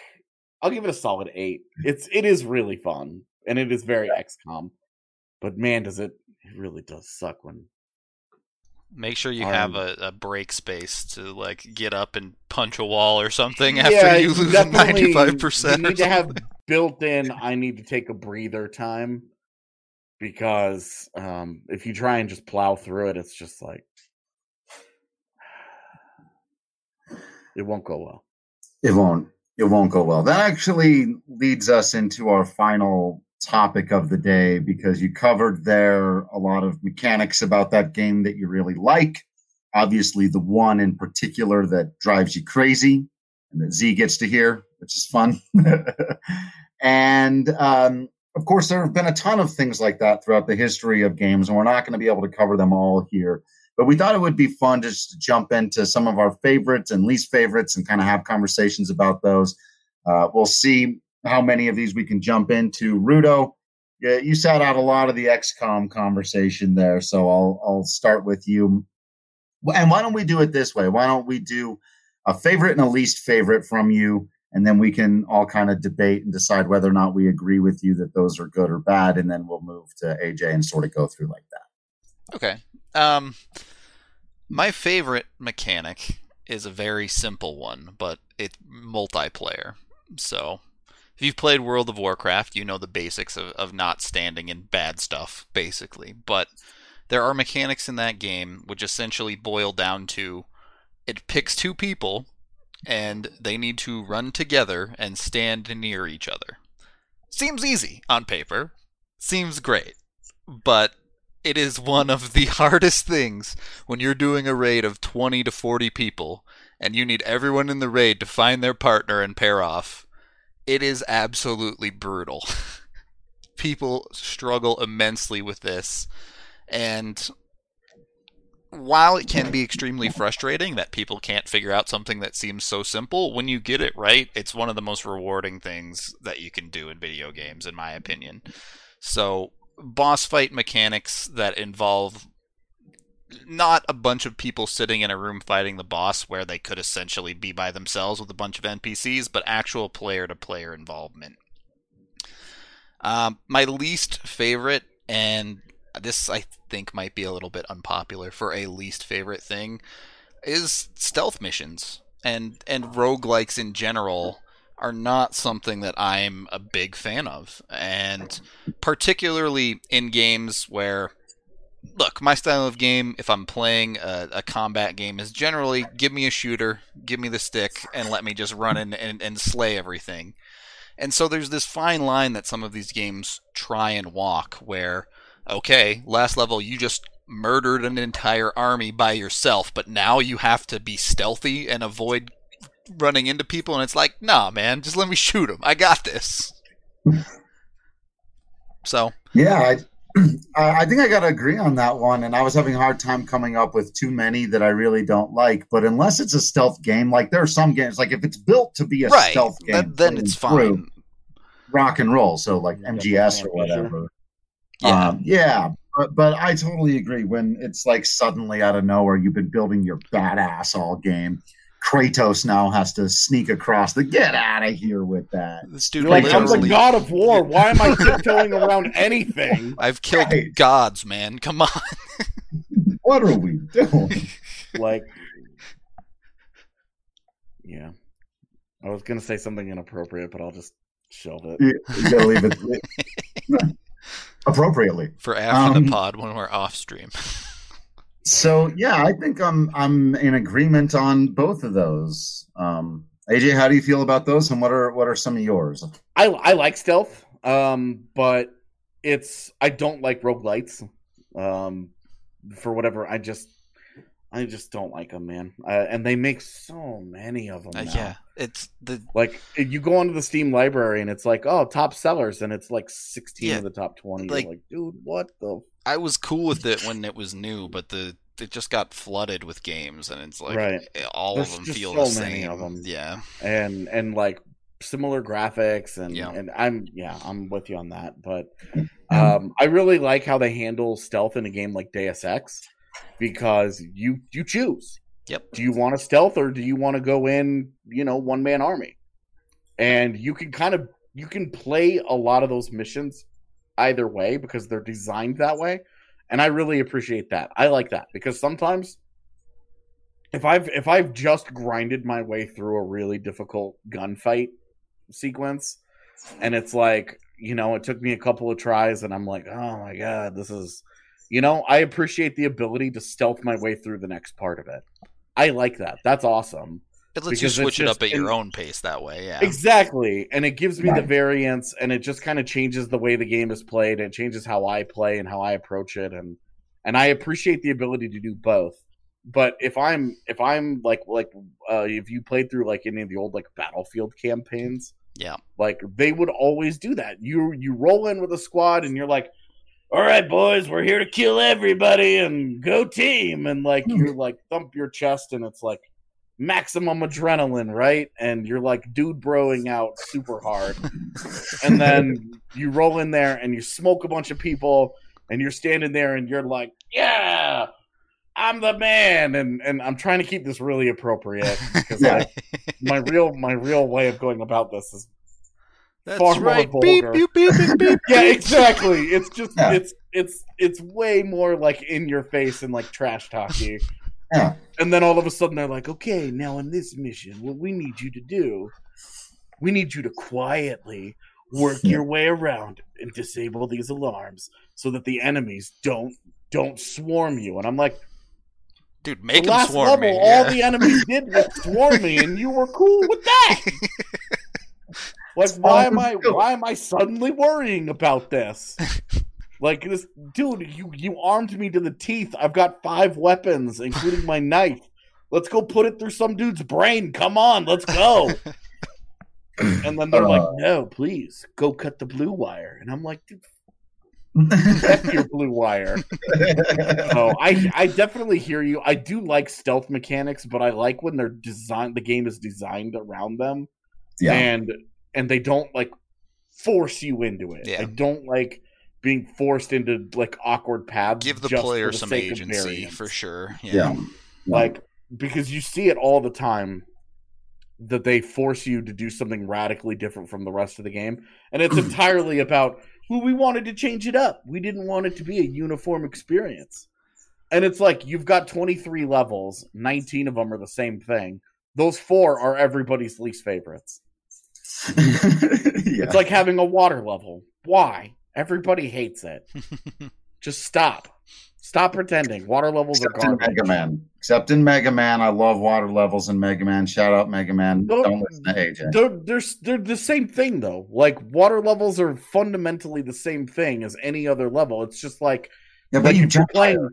It is really fun and it is very XCOM. But man, it really does suck when. Make sure you have a break space to like get up and punch a wall or something after you lose 95%. You need to have built in. I need to take a breather time because if you try and just plow through it, it's just like it won't go well. It won't go well. That actually leads us into our final topic of the day, because you covered there a lot of mechanics about that game that you really like. Obviously, the one in particular that drives you crazy and that Z gets to hear, which is fun. And of course, there have been a ton of things like that throughout the history of games, and we're not going to be able to cover them all here. But we thought it would be fun just to jump into some of our favorites and least favorites and kind of have conversations about those. We'll see how many of these we can jump into. Rudo, you sat out a lot of the XCOM conversation there, so I'll start with you. And why don't we do it this way? Why don't we do a favorite and a least favorite from you, and then we can all kind of debate and decide whether or not we agree with you that those are good or bad, and then we'll move to AJ and sort of go through like that. Okay. My favorite mechanic is a very simple one, but it's multiplayer. So if you've played World of Warcraft, you know the basics of not standing in bad stuff, basically. But there are mechanics in that game which essentially boil down to it picks 2 people, and they need to run together and stand near each other. Seems easy on paper, seems great, but it is one of the hardest things when you're doing a raid of 20 to 40 people and you need everyone in the raid to find their partner and pair off. It is absolutely brutal. People struggle immensely with this, and while it can be extremely frustrating that people can't figure out something that seems so simple, when you get it right, it's one of the most rewarding things that you can do in video games, in my opinion. So, boss fight mechanics that involve not a bunch of people sitting in a room fighting the boss where they could essentially be by themselves with a bunch of NPCs, but actual player-to-player involvement. My least favorite, and this I think might be a little bit unpopular for a least favorite thing, is stealth missions. And roguelikes in general are not something that I'm a big fan of. And particularly in games where, look, my style of game, if I'm playing a combat game, is generally give me a shooter, give me the stick, and let me just run in and slay everything. And so there's this fine line that some of these games try and walk where, okay, last level you just murdered an entire army by yourself, but now you have to be stealthy and avoid running into people, and it's like, nah, man, just let me shoot them. I got this. So. Yeah, I think I got to agree on that one, and I was having a hard time coming up with too many that I really don't like. But unless it's a stealth game, like there are some games, like if it's built to be a stealth game, then it's fine. Rock and roll, so like MGS or whatever. Yeah, but I totally agree. When it's like suddenly out of nowhere, you've been building your badass all game. Kratos now has to sneak across the get out of here with that. This dude like, I'm the god of war. Why am I tiptoeing around anything? I've killed gods, man. Come on. What are we doing? Like, yeah. I was going to say something inappropriate, but I'll just shelve it. You gotta leave it appropriately. For after the pod when we're off stream. So yeah, I think I'm in agreement on both of those. AJ, how do you feel about those, and what are some of yours? I like stealth, but I don't like roguelites. For whatever, I just don't like them, man. And they make so many of them now. Yeah, it's like you go onto the Steam library and it's like, oh, top sellers, and it's like 16 of the top 20. Like, you're like, dude, what the? I was cool with it when it was new, but it just got flooded with games, and it's like all There's of them just feel so the same. many of them. Yeah, and like similar graphics, and I'm with you on that. But I really like how they handle stealth in a game like Deus Ex, because you choose. Yep. Do you want to stealth, or do you want to go in, one man army? And you can play a lot of those missions either way because they're designed that way. And I really appreciate that. I like that because sometimes if I've just grinded my way through a really difficult gunfight sequence, and it's like, it took me a couple of tries and I'm like, oh my God, this is, I appreciate the ability to stealth my way through the next part of it. I like that. That's awesome. It lets you switch it up at your own pace that way, yeah. Exactly. And it gives me the variance, and it just kind of changes the way the game is played. It changes how I play and how I approach it, and I appreciate the ability to do both. But if I'm like if you played through like any of the old like Battlefield campaigns, yeah, like they would always do that. You roll in with a squad and you're like, all right, boys, we're here to kill everybody and go team, and like you like thump your chest and it's like maximum adrenaline, right? And you're like dude broing out super hard. And then you roll in there and you smoke a bunch of people and you're standing there and you're like, yeah, I'm the man. And I'm trying to keep this really appropriate because my real way of going about this is far more vulgar. Beep, beep, beep, beep, beep. Yeah, exactly. It's just it's way more like in your face and like trash talky. Yeah. And then all of a sudden they're like, okay, now in this mission, what we need you to do, we need you to quietly work your way around and disable these alarms so that the enemies don't swarm you. And I'm like, Dude, make the them last swarm level, me. all the enemies did was swarm me, and you were cool with that. Like, why am I suddenly worrying about this? Like, this dude, you armed me to the teeth. I've got 5 weapons, including my knife. Let's go put it through some dude's brain. Come on, let's go. And then they're like, no, please, go cut the blue wire. And I'm like, dude, F your blue wire. So I definitely hear you. I do like stealth mechanics, but I like when the game is designed around them. Yeah. And they don't like force you into it. Yeah. I don't like being forced into like awkward paths. Give the player some agency for sure. Yeah. Like, because you see it all the time that they force you to do something radically different from the rest of the game. And it's entirely about, well, we wanted to change it up. We didn't want it to be a uniform experience. And it's like, you've got 23 levels, 19 of them are the same thing. Those 4 are everybody's least favorites. It's like having a water level. Why? Everybody hates it. Just stop. Stop pretending. Water levels are garbage. Mega Man. Except in Mega Man. I love water levels in Mega Man. Shout out Mega Man. Don't listen to AJ. They're the same thing, though. Like, water levels are fundamentally the same thing as any other level. It's just like, but you're playing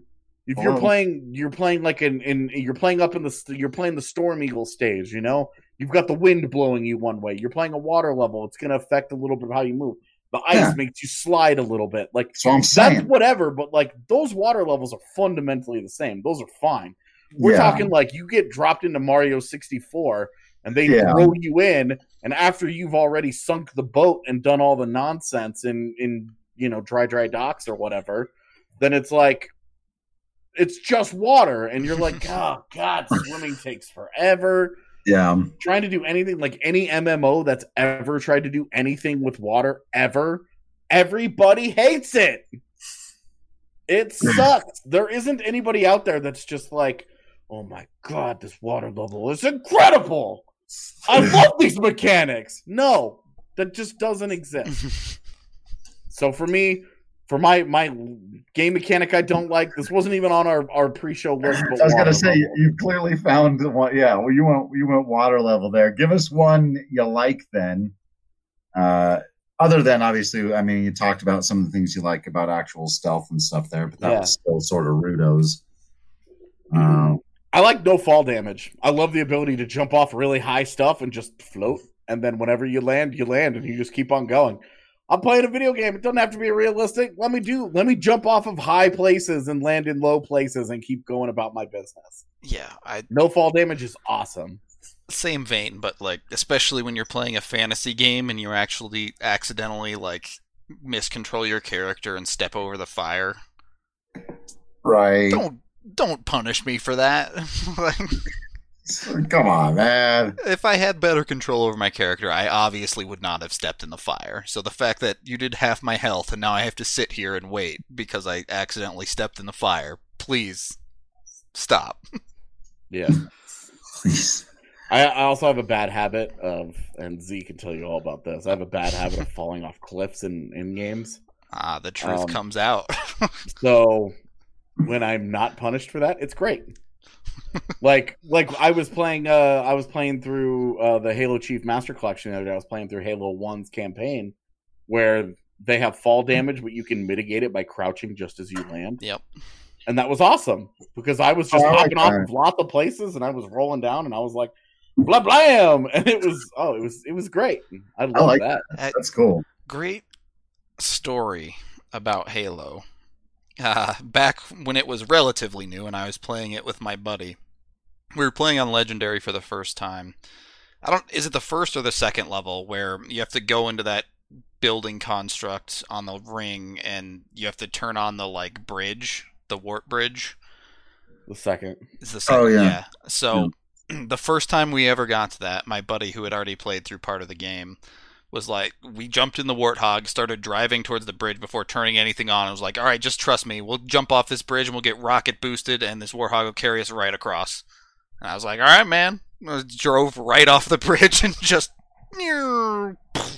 like you're playing the Storm Eagle stage, you know? You've got the wind blowing you one way. You're playing a water level. It's going to affect a little bit of how you move. The ice makes you slide a little bit. Like, so I'm saying. That's whatever, but like those water levels are fundamentally the same. Those are fine. We're talking like you get dropped into Mario 64 and they throw you in, and after you've already sunk the boat and done all the nonsense in dry docks or whatever, then it's like it's just water, and you're like, oh god, swimming takes forever. Yeah. Trying to do anything, like any MMO that's ever tried to do anything with water ever, everybody hates it. It sucks. There isn't anybody out there that's just like, oh my god, this water level is incredible. I love these mechanics. No, that just doesn't exist. So for me, for my game mechanic I don't like, this wasn't even on our pre-show list. But I was going to say, you clearly found one. Yeah, well, you went water level there. Give us one you like then. Other than, obviously, I mean, you talked about some of the things you like about actual stealth and stuff there, but that was still sort of rudos. I like no fall damage. I love the ability to jump off really high stuff and just float, and then whenever you land, and you just keep on going. I'm playing a video game. It doesn't have to be realistic. Let me jump off of high places and land in low places and keep going about my business. Yeah, no fall damage is awesome. Same vein, but like especially when you're playing a fantasy game and you actually accidentally like miscontrol your character and step over the fire. Right. Don't punish me for that. Come on, man. If I had better control over my character, I obviously would not have stepped in the fire. So the fact that you did half my health and now I have to sit here and wait because I accidentally stepped in the fire, please stop. Yeah. Please. I also have a bad habit of, and Z can tell you all about this, I have a bad habit of falling off cliffs in games. The truth comes out. So when I'm not punished for that, it's great. like I was playing through the Halo Chief Master Collection the other day. I was playing through Halo 1's campaign where they have fall damage, but you can mitigate it by crouching just as you land. Yep. And that was awesome because I was just hopping off of lots of places and I was rolling down and I was like, blah blam, and it was great. I love that. That's cool. Great story about Halo. Back when it was relatively new and I was playing it with my buddy, we were playing on Legendary for the first time. Is it the first or the second level where you have to go into that building construct on the ring and you have to turn on the like bridge, the warp bridge? The second. It's the second. Oh yeah. So the first time we ever got to that, my buddy who had already played through part of the game was like, we jumped in the Warthog, started driving towards the bridge before turning anything on. I was like, all right, just trust me. We'll jump off this bridge and we'll get rocket boosted and this Warthog will carry us right across. And I was like, all right, man. I drove right off the bridge and just... I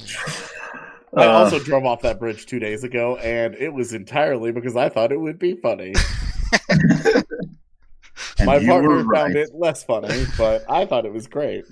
also drove off that bridge 2 days ago, and it was entirely because I thought it would be funny. And My you partner were right. found it less funny, but I thought it was great.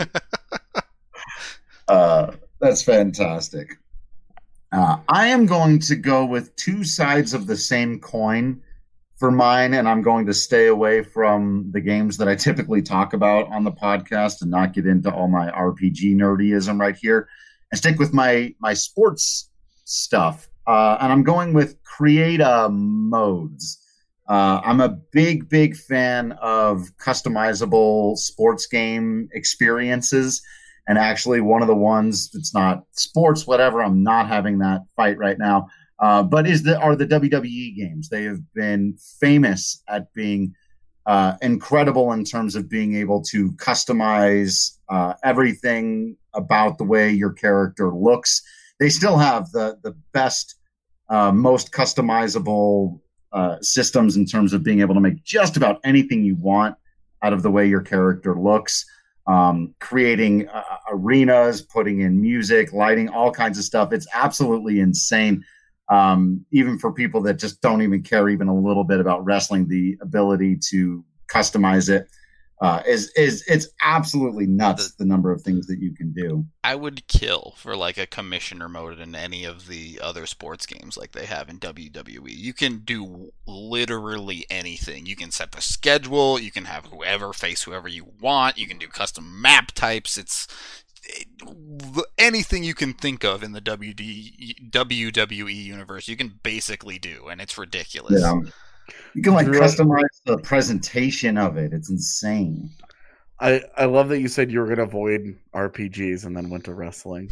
That's fantastic. I am going to go with two sides of the same coin for mine, and I'm going to stay away from the games that I typically talk about on the podcast and not get into all my RPG nerdyism right here, and stick with my sports stuff. And I'm going with create modes. I'm a big fan of customizable sports game experiences. And actually, one of the ones that's not sports, whatever, I'm not having that fight right now, but are the WWE games. They have been famous at being incredible in terms of being able to customize everything about the way your character looks. They still have the best, most customizable systems in terms of being able to make just about anything you want out of the way your character looks. Creating arenas, putting in music, lighting, all kinds of stuff. It's absolutely insane. Even for people that just don't even care even a little bit about wrestling, the ability to customize it it's absolutely nuts, the number of things that you can do. I would kill for like a commissioner mode in any of the other sports games like they have in WWE. You can do literally anything. You can set the schedule, you can have whoever face whoever you want, you can do custom map types. It's anything you can think of in the WWE universe, you can basically do, and it's ridiculous. Yeah. You can customize the presentation of it. It's insane. I love that you said you were going to avoid RPGs and then went to wrestling.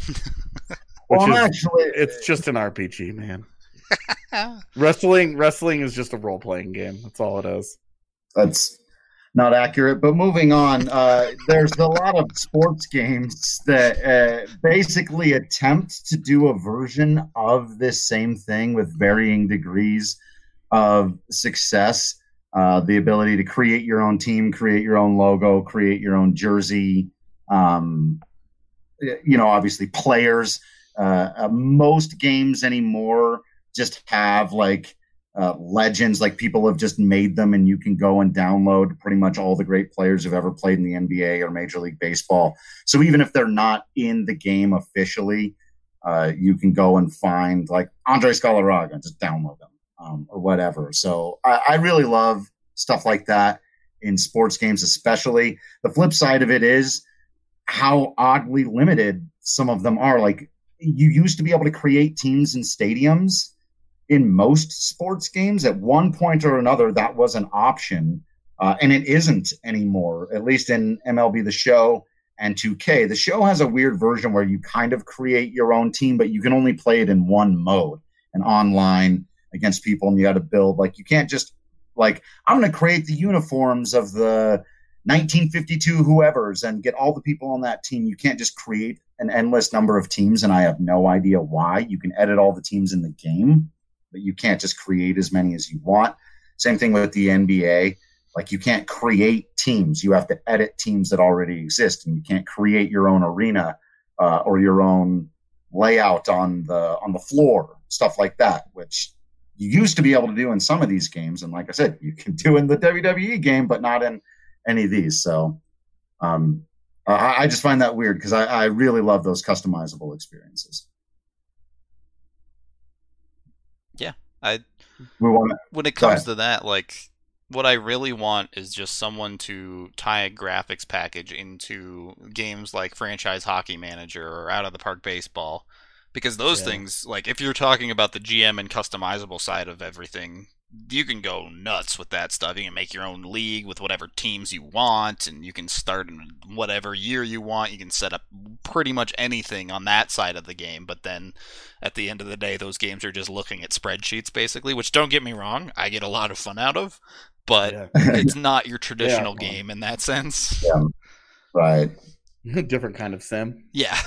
It's just an RPG, man. Wrestling is just a role-playing game. That's all it is. That's not accurate. But moving on, there's a lot of sports games that basically attempt to do a version of this same thing with varying degrees of success. The ability to create your own team, create your own logo, create your own jersey. Obviously players. Most games anymore just have legends, like people have just made them, and you can go and download pretty much all the great players who've ever played in the NBA or Major League Baseball. So even if they're not in the game officially, you can go and find like Andres Galarraga and just download them. Or whatever. So I really love stuff like that in sports games, especially. The flip side of it is how oddly limited some of them are. Like, you used to be able to create teams in stadiums in most sports games. At one point or another, that was an option, and it isn't anymore, at least in MLB The Show and 2K. The Show has a weird version where you kind of create your own team, but you can only play it in one mode, and online against people, and you got to build. Like, you can't just I'm going to create the uniforms of the 1952 whoever's and get all the people on that team. You can't just create an endless number of teams, and I have no idea why. You can edit all the teams in the game, but you can't just create as many as you want. Same thing with the NBA. Like, you can't create teams. You have to edit teams that already exist, and you can't create your own arena or your own layout on the floor, stuff like that, which you used to be able to do in some of these games. And like I said, you can do in the WWE game, but not in any of these. So I just find that weird because I really love those customizable experiences. Yeah. When it comes to that, like, what I really want is just someone to tie a graphics package into games like Franchise Hockey Manager or Out of the Park Baseball. Because those things, like, if you're talking about the GM and customizable side of everything, you can go nuts with that stuff. You can make your own league with whatever teams you want, and you can start in whatever year you want. You can set up pretty much anything on that side of the game. But then, at the end of the day, those games are just looking at spreadsheets, basically, which, don't get me wrong, I get a lot of fun out of. But it's not your traditional game in that sense. Yeah, right. Different kind of sim. Yeah.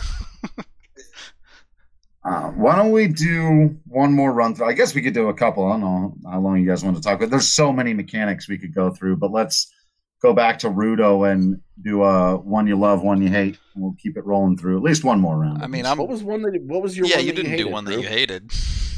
Why don't we do one more run through? I guess we could do a couple. I don't know how long you guys want to talk about. There's so many mechanics we could go through, but let's go back to Rudo and do a one you love, one you hate. And we'll keep it rolling through at least one more round. I mean, what was your one that you didn't do one that you hated.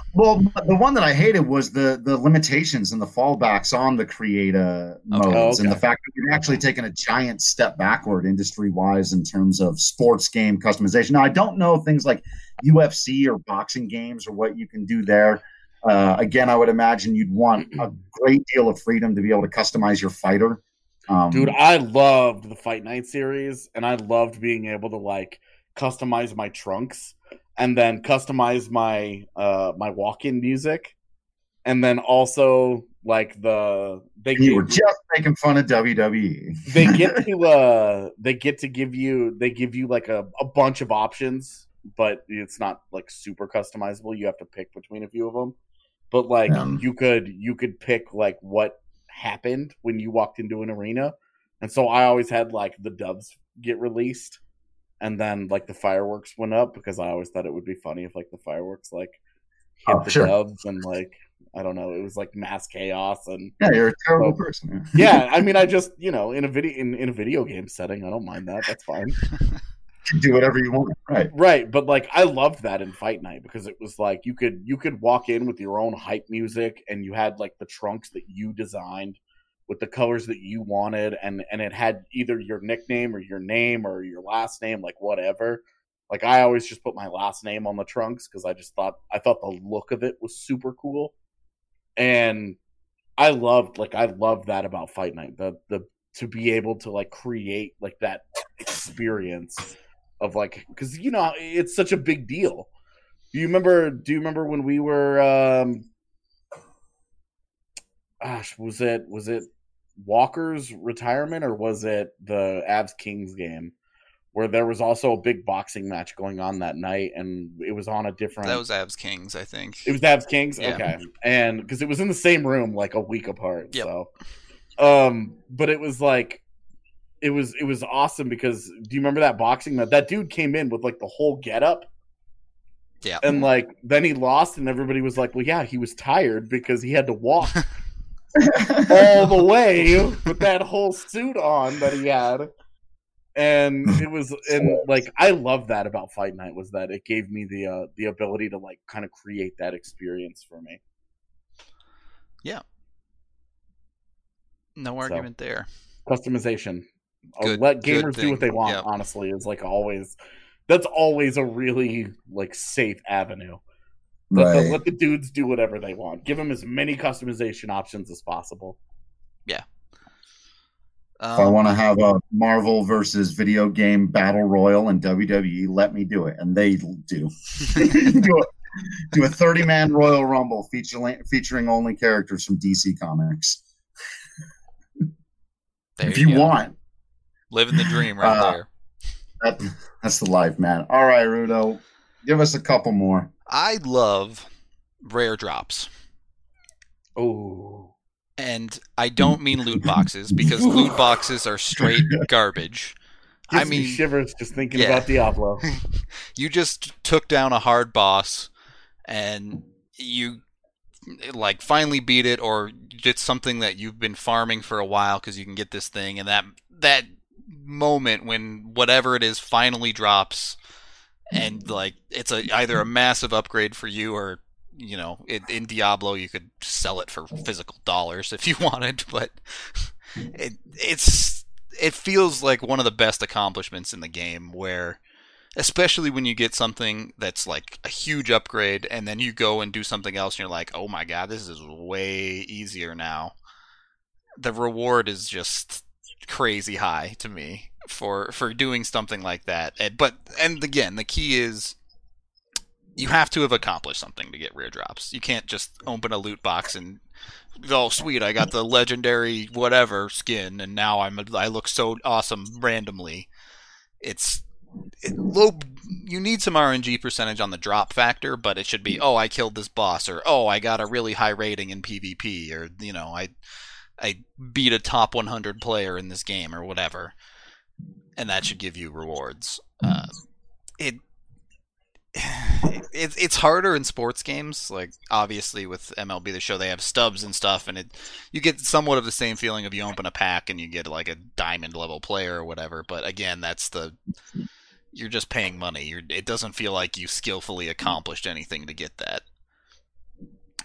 Well, the one that I hated was the limitations and the fallbacks on the creator modes, and the fact that we've actually taken a giant step backward industry wise in terms of sports game customization. Now, I don't know things like UFC or boxing games or what you can do there. Again, I would imagine you'd want a great deal of freedom to be able to customize your fighter. Dude, I loved the Fight Night series, and I loved being able to like customize my trunks and then customize my my walk-in music, and then also like you were just making fun of WWE. they give you like a bunch of options, but it's not like super customizable. You have to pick between a few of them. But like you could pick like what happened when you walked into an arena, and so I always had like the doves get released, and then like the fireworks went up because I always thought it would be funny if like the fireworks like hit the doves and like I don't know, it was like mass chaos. And yeah, you're a terrible person. Yeah, I mean, I just in a video game setting, I don't mind that. That's fine. Do whatever you want, right. But like I loved that in Fight Night because it was like you could walk in with your own hype music, and you had like the trunks that you designed with the colors that you wanted, and it had either your nickname or your name or your last name, like whatever. Like I always just put my last name on the trunks because I thought the look of it was super cool, and I loved that about Fight Night, the to be able to like create like that experience of like, because you know it's such a big deal. Do you remember when we were was it Walker's retirement, or was it the Avs Kings game where there was also a big boxing match going on that night, and it was on a different... That was Avs Kings, I think. It was Avs Kings? Yeah. Okay. And because it was in the same room like a week apart. Yep. So but it was like it was awesome because do you remember that boxing match? That dude came in with like the whole getup. Yeah. And like then he lost, and everybody was like, well, yeah, he was tired because he had to walk all the way with that whole suit on that he had. And it was, and like I love that about Fight Night, was that it gave me the ability to like kind of create that experience for me. Yeah. No argument there. Customization. Let gamers do what they want, honestly, is like always, that's always a really like safe avenue. Let the dudes do whatever they want. Give them as many customization options as possible. Yeah. If I want to have a Marvel versus video game battle royal in WWE, let me do it, and they do. do a 30-man Royal Rumble featuring only characters from DC Comics. If you want, living the dream right there. That's the life, man. All right, Rudo, give us a couple more. I love rare drops. Oh. And I don't mean loot boxes, because loot boxes are straight garbage. Gives me shivers just thinking about Diablo. You just took down a hard boss, and you like finally beat it, or did something that you've been farming for a while because you can get this thing, and that moment when whatever it is finally drops, and like it's either a massive upgrade for you, or you know, in Diablo you could sell it for physical dollars if you wanted, but it feels like one of the best accomplishments in the game, where especially when you get something that's like a huge upgrade and then you go and do something else and you're like, oh my god, this is way easier now. The reward is just crazy high to me for doing something like that. And again, the key is you have to have accomplished something to get rare drops. You can't just open a loot box and go, oh, sweet, I got the legendary whatever skin, and now I look so awesome randomly. You need some RNG percentage on the drop factor, but it should be, oh, I killed this boss, or oh, I got a really high rating in PvP, or you know, I beat a top 100 player in this game, or whatever, and that should give you rewards. It's harder in sports games, like obviously with MLB The Show they have stubs and stuff, and you get somewhat of the same feeling of you open a pack and you get like a diamond level player or whatever, but again, you're just paying money. It doesn't feel like you skillfully accomplished anything to get that.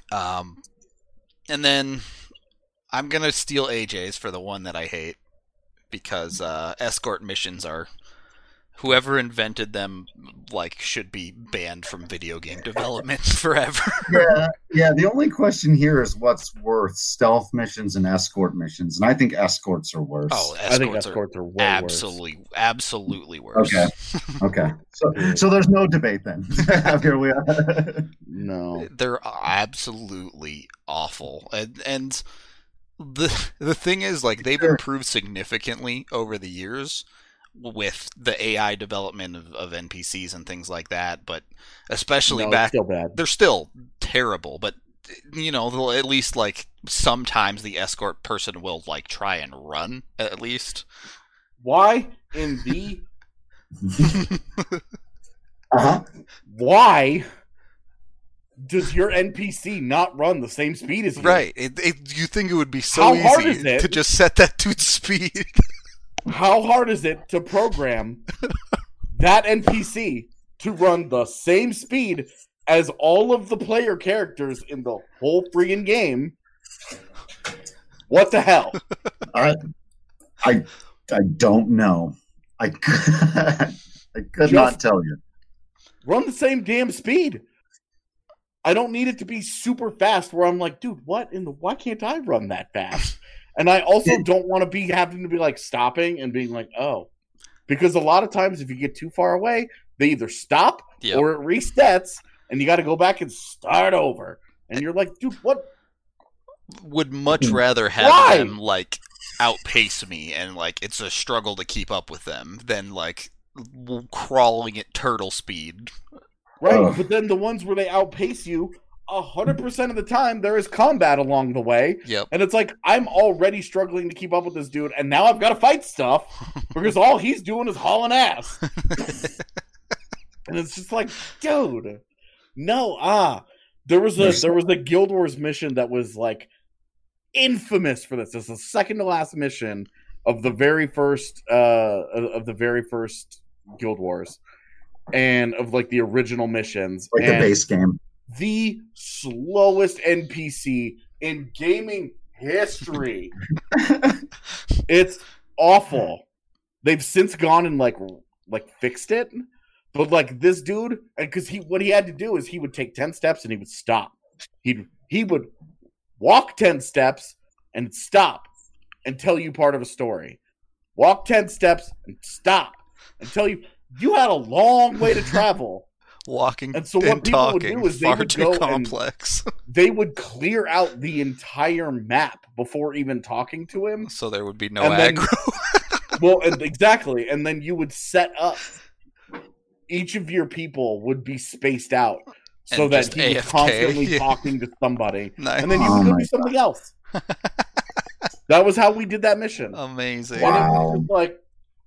And then I'm gonna steal AJ's for the one that I hate because escort missions are. Whoever invented them, like, should be banned from video game development forever. Yeah. The only question here is what's worse, stealth missions and escort missions, and I think escorts are worse. Oh, I think escorts are way absolutely worse. Okay. So there's no debate then. Here we are. No, they're absolutely awful, and the thing is, like, they've improved significantly over the years with the AI development of NPCs and things like that, but especially back, still bad. They're still terrible, but they'll at least, like, sometimes the escort person will, like, try and run, at least. Why in the Why does your NPC not run the same speed as you? Right. You think it would be so easy to just set that dude's speed. How hard is it to program that NPC to run the same speed as all of the player characters in the whole friggin' game? What the hell? I don't know. I could not tell you. Run the same damn speed. I don't need it to be super fast where I'm like, dude, why can't I run that fast? And I also don't want to be having to be like stopping and being like, oh, because a lot of times if you get too far away, they either stop or it resets and you got to go back and start over. And you're like, dude, what? Would much rather have them, like, outpace me and, like, it's a struggle to keep up with them than, like, crawling at turtle speed. Right, but then the ones where they outpace you, 100% of the time there is combat along the way. Yep. And it's like, I'm already struggling to keep up with this dude, and now I've got to fight stuff because all he's doing is hauling ass. And it's just like, dude, no, there was a Guild Wars mission that was like infamous for this. It's the second to last mission of the very first Guild Wars and of like the original missions. Like the base game. The slowest NPC in gaming history. It's awful. They've since gone and like fixed it. But like this dude, because what he had to do is he would take 10 steps and he would stop. He would walk 10 steps and stop and tell you part of a story. Walk 10 steps and stop and tell you had a long way to travel. Walking and so what people would do is far too complex. They would clear out the entire map before even talking to him. So there would be no aggro. Exactly. And then you would set up. Each of your people would be spaced out so that he was constantly talking to somebody. Nice. And then you would go do something else. That was how we did that mission. Amazing. Wow. And it was like,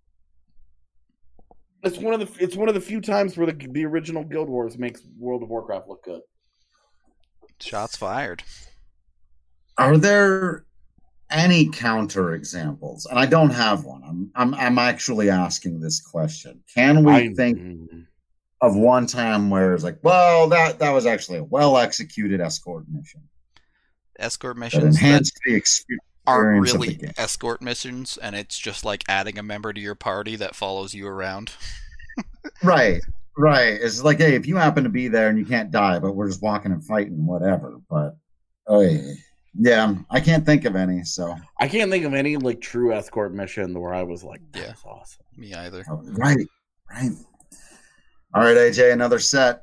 it's one of the few times where the original Guild Wars makes World of Warcraft look good. Shots fired. Are there any counter examples? And I don't have one. I'm actually asking this question. Can we think of one time where it's like, well, that was actually a well executed escort mission. Escort missions that enhanced the experience. Aren't really escort missions, and it's just like adding a member to your party that follows you around. Right. It's like, hey, if you happen to be there and you can't die, but we're just walking and fighting, whatever. But yeah, I can't think of any. So I can't think of any like true escort mission where I was like, that's awesome. Me either. Oh, right. All right, AJ, another set.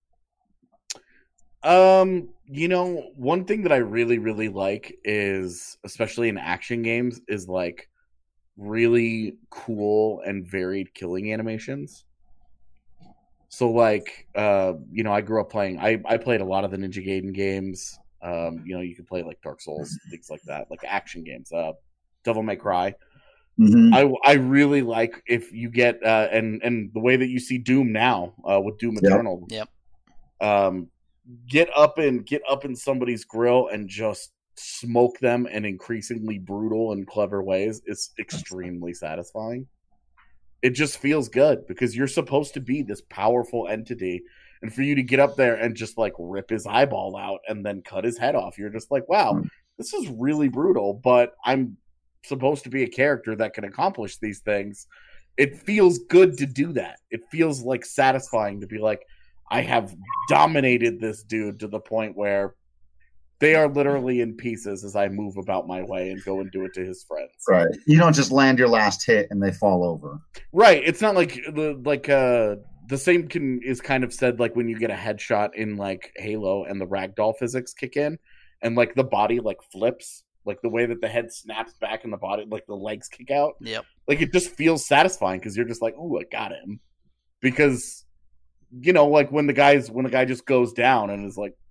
One thing that I really, really like is, especially in action games, is like really cool and varied killing animations. So like, I grew up playing, I played a lot of the Ninja Gaiden games. You can play like Dark Souls, things like that, like action games, Devil May Cry. Mm-hmm. I really like if you get, and the way that you see Doom now, with Doom Eternal. Yep. Get up in somebody's grill and just smoke them in increasingly brutal and clever ways. It's extremely satisfying. It just feels good because you're supposed to be this powerful entity, and for you to get up there and just like rip his eyeball out and then cut his head off, you're just like, wow, this is really brutal, but I'm supposed to be a character that can accomplish these things. It feels good to do that. It feels like satisfying to be like, I have dominated this dude to the point where they are literally in pieces as I move about my way and go and do it to his friends. Right. You don't just land your last hit and they fall over. Right. It's not like the same is kind of said like when you get a headshot in like Halo and the ragdoll physics kick in and like the body like flips, like the way that the head snaps back and the body, like the legs kick out. Yep. Like it just feels satisfying because you're just like, ooh, I got him. Because, you know, like when the guy just goes down and is like,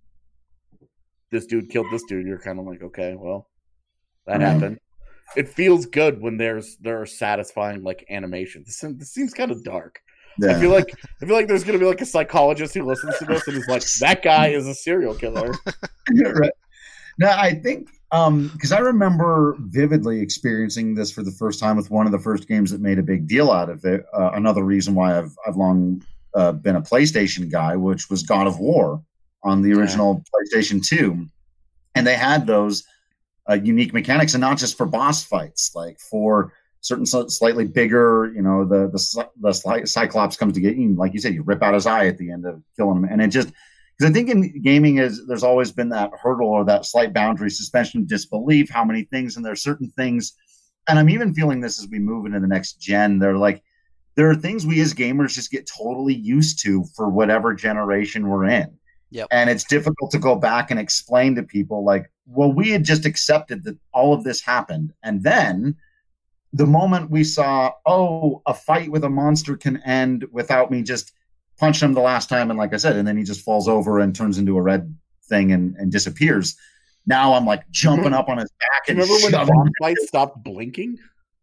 this dude killed this dude, you're kind of like, okay, well, that happened. It feels good when there are satisfying like animations. This seems kind of dark. Yeah. I feel like there's gonna be like a psychologist who listens to this and is like, that guy is a serial killer. Right. No, I think because I remember vividly experiencing this for the first time with one of the first games that made a big deal out of it. Another reason why I've long been a PlayStation guy, which was God of War on the original PlayStation 2. And they had those unique mechanics, and not just for boss fights, like for certain slightly bigger, you know, the Cyclops comes to get you, like you said, you rip out his eye at the end of killing him. And it just, because I think in gaming there's always been that hurdle or that slight boundary, suspension of disbelief, how many things, and there are certain things, and I'm even feeling this as we move into the next gen, there are things we as gamers just get totally used to for whatever generation we're in. Yep. And it's difficult to go back and explain to people like, well, we had just accepted that all of this happened. And then the moment we saw, a fight with a monster can end without me just punching him the last time. And like I said, and then he just falls over and turns into a red thing and disappears. Now I'm like jumping up on his back. And remember when the boss fight stopped blinking?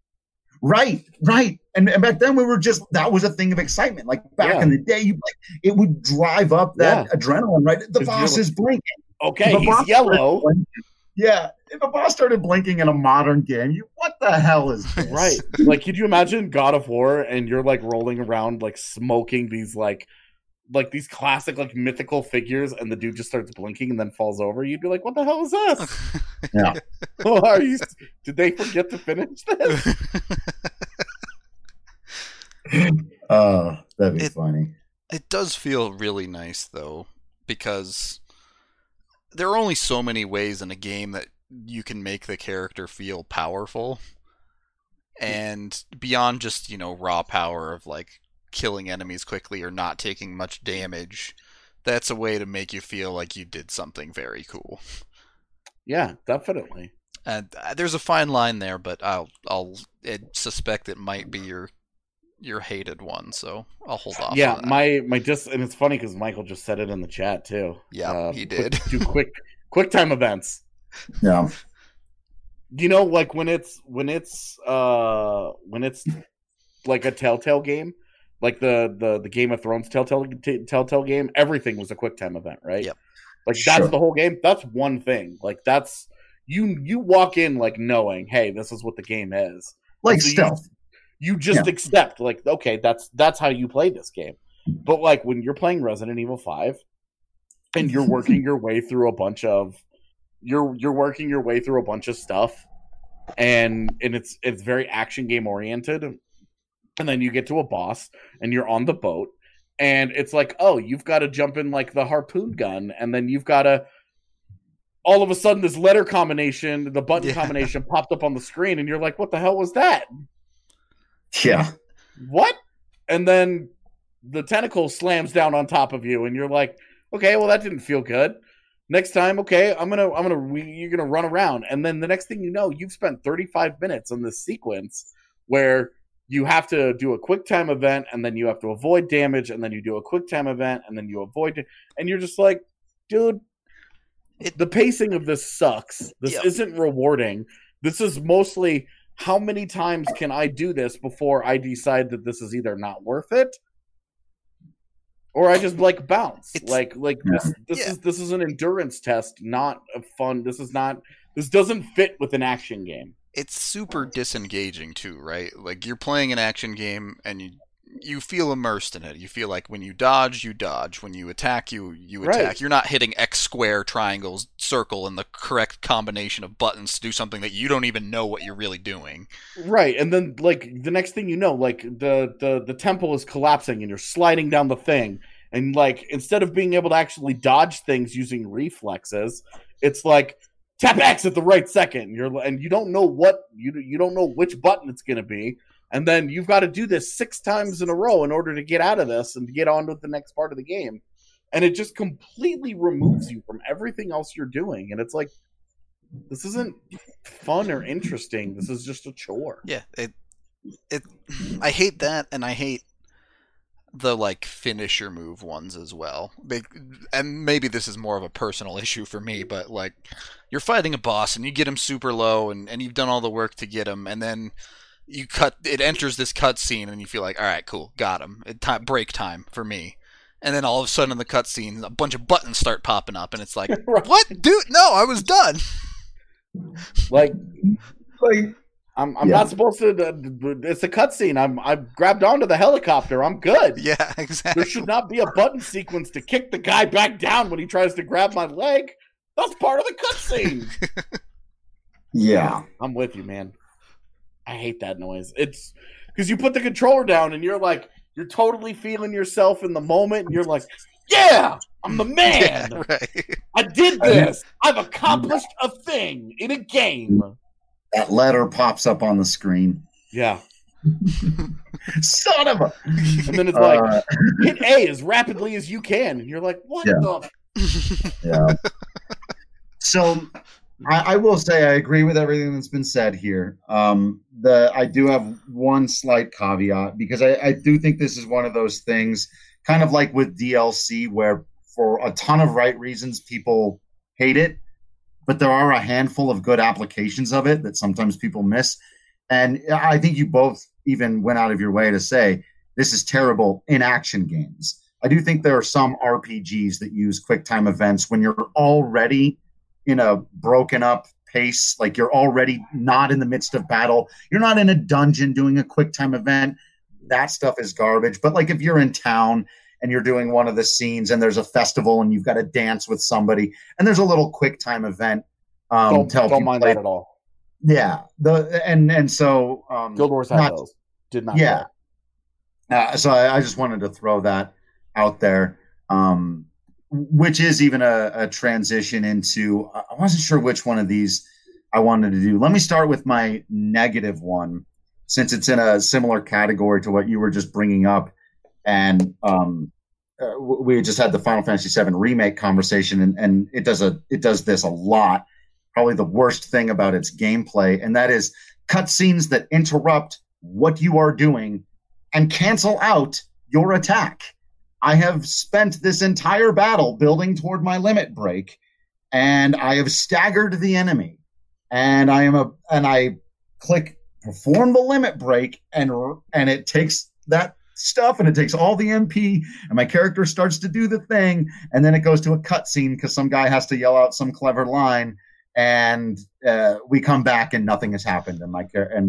Right. And back then that was a thing of excitement. Like back in the day, it would drive up that adrenaline, right? The boss is blinking. Okay, he's yellow. If a boss started blinking in a modern game, what the hell is this? Right. Like, could you imagine God of War and you're like rolling around like smoking these like these classic like mythical figures and the dude just starts blinking and then falls over? You'd be like, what the hell is this? Yeah. Did they forget to finish this? That'd be funny. It does feel really nice though, because there are only so many ways in a game that you can make the character feel powerful. And beyond just, raw power of like killing enemies quickly or not taking much damage, that's a way to make you feel like you did something very cool. Yeah, definitely. And there's a fine line there, but I'll suspect it might be your hated one, so I'll hold off. Yeah, on that. And it's funny because Michael just said it in the chat too. Yeah, he did. Do quick time events. Yeah. Like when it's like a Telltale game, like the Game of Thrones Telltale game, everything was a quick time event, right? Yep. Like that's the whole game. That's one thing. Like that's you walk in like knowing, hey, this is what the game is. Like so stealth. You just accept, like, okay, that's how you play this game. But like when you're playing Resident Evil 5 and you're working your way through a bunch of stuff and it's very action game oriented, and then you get to a boss and you're on the boat and it's like, oh, you've got to jump in like the harpoon gun, and then you've got to all of a sudden this letter combination, the button combination popped up on the screen and you're like, what the hell was that? Yeah. What? And then the tentacle slams down on top of you and you're like, okay, well that didn't feel good. Next time, okay, you're gonna run around, and then the next thing you know, you've spent 35 minutes on this sequence where you have to do a quick time event, and then you have to avoid damage, and then you do a quick time event, and then you avoid, and you're just like, dude, the pacing of this sucks. This isn't rewarding. This is mostly, how many times can I do this before I decide that this is either not worth it, or I just like bounce? This is an endurance test, not a fun. This doesn't fit with an action game. It's super disengaging too, right? Like you're playing an action game and you feel immersed in it. You feel like when you dodge, you dodge. When you attack, you attack. Right. You're not hitting X, square, triangles, circle, and the correct combination of buttons to do something that you don't even know what you're really doing. Right, and then like the next thing you know, like the temple is collapsing and you're sliding down the thing, and like instead of being able to actually dodge things using reflexes, it's like tap X at the right second. And you don't know what you don't know which button it's gonna be, and then you've got to do this 6 times in a row in order to get out of this and to get on with the next part of the game. And it just completely removes you from everything else you're doing, and it's like, this isn't fun or interesting. This is just a chore. Yeah, I hate that, and I hate the like finisher move ones as well. And maybe this is more of a personal issue for me, but like you're fighting a boss and you get him super low, and you've done all the work to get him, and then it enters this cutscene, and you feel like, all right, cool, got him. Break time for me. And then all of a sudden in the cutscene, a bunch of buttons start popping up, and it's like, Right. what, dude? No, I was done. Like I'm not supposed to. It's a cutscene. I grabbed onto the helicopter. I'm good. Yeah, exactly. There should not be a button sequence to kick the guy back down when he tries to grab my leg. That's part of the cutscene. Yeah. I'm with you, man. I hate that noise. It's because you put the controller down and you're totally feeling yourself in the moment, and you're like, yeah, I'm the man. Yeah, right. I did this. I've accomplished a thing in a game. That letter pops up on the screen. Yeah. Son of a... And then it's like, hit A as rapidly as you can. And you're like, what the... Yeah. So I will say I agree with everything that's been said here. I do have one slight caveat, because I do think this is one of those things, kind of like with DLC, where for a ton of right reasons people hate it, but there are a handful of good applications of it that sometimes people miss. And I think you both even went out of your way to say this is terrible in action games. I do think there are some RPGs that use QuickTime events when you're already in a broken up pace, like you're already not in the midst of battle. You're not in a dungeon doing a QuickTime event. That stuff is garbage. But like if you're in town and you're doing one of the scenes and there's a festival and you've got to dance with somebody and there's a little QuickTime event. Don't mind that at all. Yeah. So Guild Wars had those. Did not. Yeah. So I just wanted to throw that out there. Which is even a transition into, I wasn't sure which one of these I wanted to do. Let me start with my negative one, since it's in a similar category to what you were just bringing up. And we just had the Final Fantasy VII Remake conversation, and it does this a lot. Probably the worst thing about its gameplay, and that is cutscenes that interrupt what you are doing and cancel out your attack. I have spent this entire battle building toward my limit break, and I have staggered the enemy, and I click perform the limit break, and it takes that stuff, and it takes all the MP, and my character starts to do the thing, and then it goes to a cutscene because some guy has to yell out some clever line, and we come back and nothing has happened, and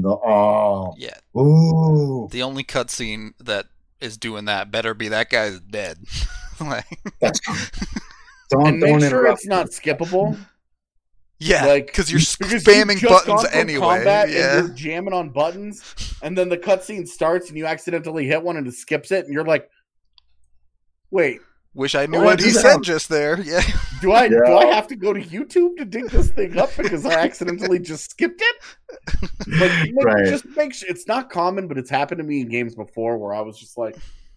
the only cutscene that is doing that better be that guy's dead. That's don't sure it's not skippable. Yeah, like, because you're spamming buttons anyway. Yeah, and you're jamming on buttons, and then the cutscene starts, and you accidentally hit one, and it skips it, and you're like, "Wait, wish I knew what he said just there." Yeah. Do I have to go to YouTube to dig this thing up because I accidentally just skipped it? Like, just make sure it's not common, but it's happened to me in games before where I was just like,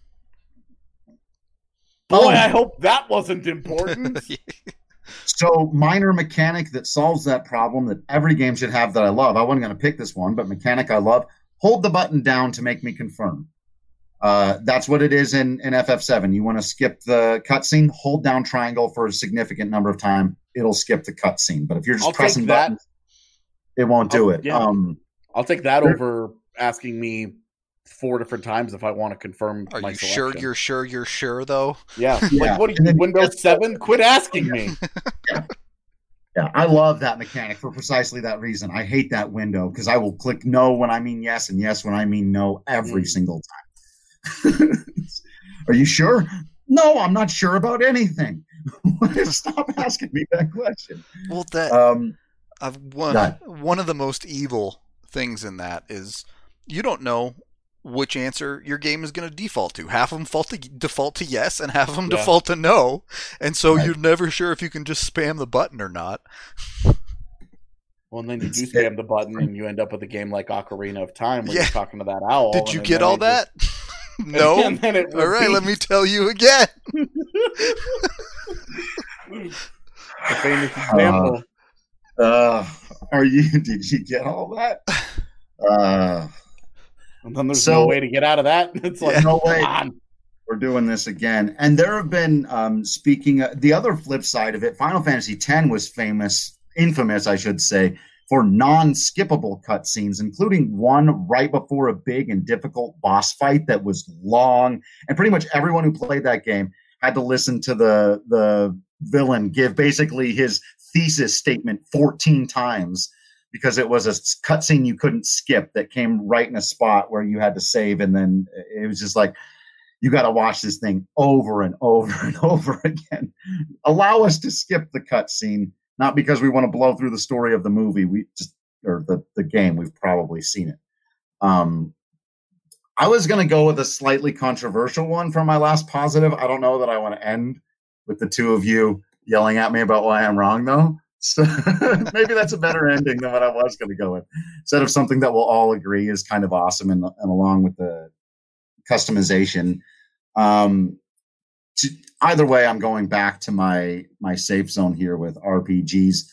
"Boy, I hope that wasn't important." So, minor mechanic that solves that problem that every game should have that I love. I wasn't going to pick this one, but mechanic I love. Hold the button down to make me confirm. That's what it is in FF7. You want to skip the cutscene, hold down triangle for a significant number of time. It'll skip the cutscene. But if you're just pressing buttons, it won't do it. Yeah. I'll take that over asking me 4 different times if I want to confirm my selection. You're sure, though? Yeah. Like, what are you, Windows 7? Quit asking me. Yeah, I love that mechanic for precisely that reason. I hate that window because I will click no when I mean yes and yes when I mean no every single time. Are you sure? No, I'm not sure about anything. Stop asking me that question. Well, one of the most evil things in that is you don't know which answer your game is going to default to. Half of them default to yes, and half of them default to no. And so you're never sure if you can just spam the button or not. Well, and then you do spam the button, and you end up with a game like Ocarina of Time where you're talking to that owl. Did you get all that? No? All right, let me tell you again. The famous example. Did you get all that? And then there's no way to get out of that. It's like, no way. We're doing this again. And there have been, the other flip side of it, Final Fantasy X was infamous, I should say, for non-skippable cutscenes, including one right before a big and difficult boss fight that was long. And pretty much everyone who played that game had to listen to the villain give basically his thesis statement 14 times because it was a cutscene you couldn't skip that came right in a spot where you had to save. And then it was just like, you got to watch this thing over and over and over again. Allow us to skip the cutscene, not because we want to blow through the story of the movie. The game. We've probably seen it. I was going to go with a slightly controversial one for my last positive. I don't know that I want to end with the two of you yelling at me about why I'm wrong, though. So maybe that's a better ending than what I was going to go with. Instead of something that we'll all agree is kind of awesome and along with the customization. Either way, I'm going back to my safe zone here with RPGs.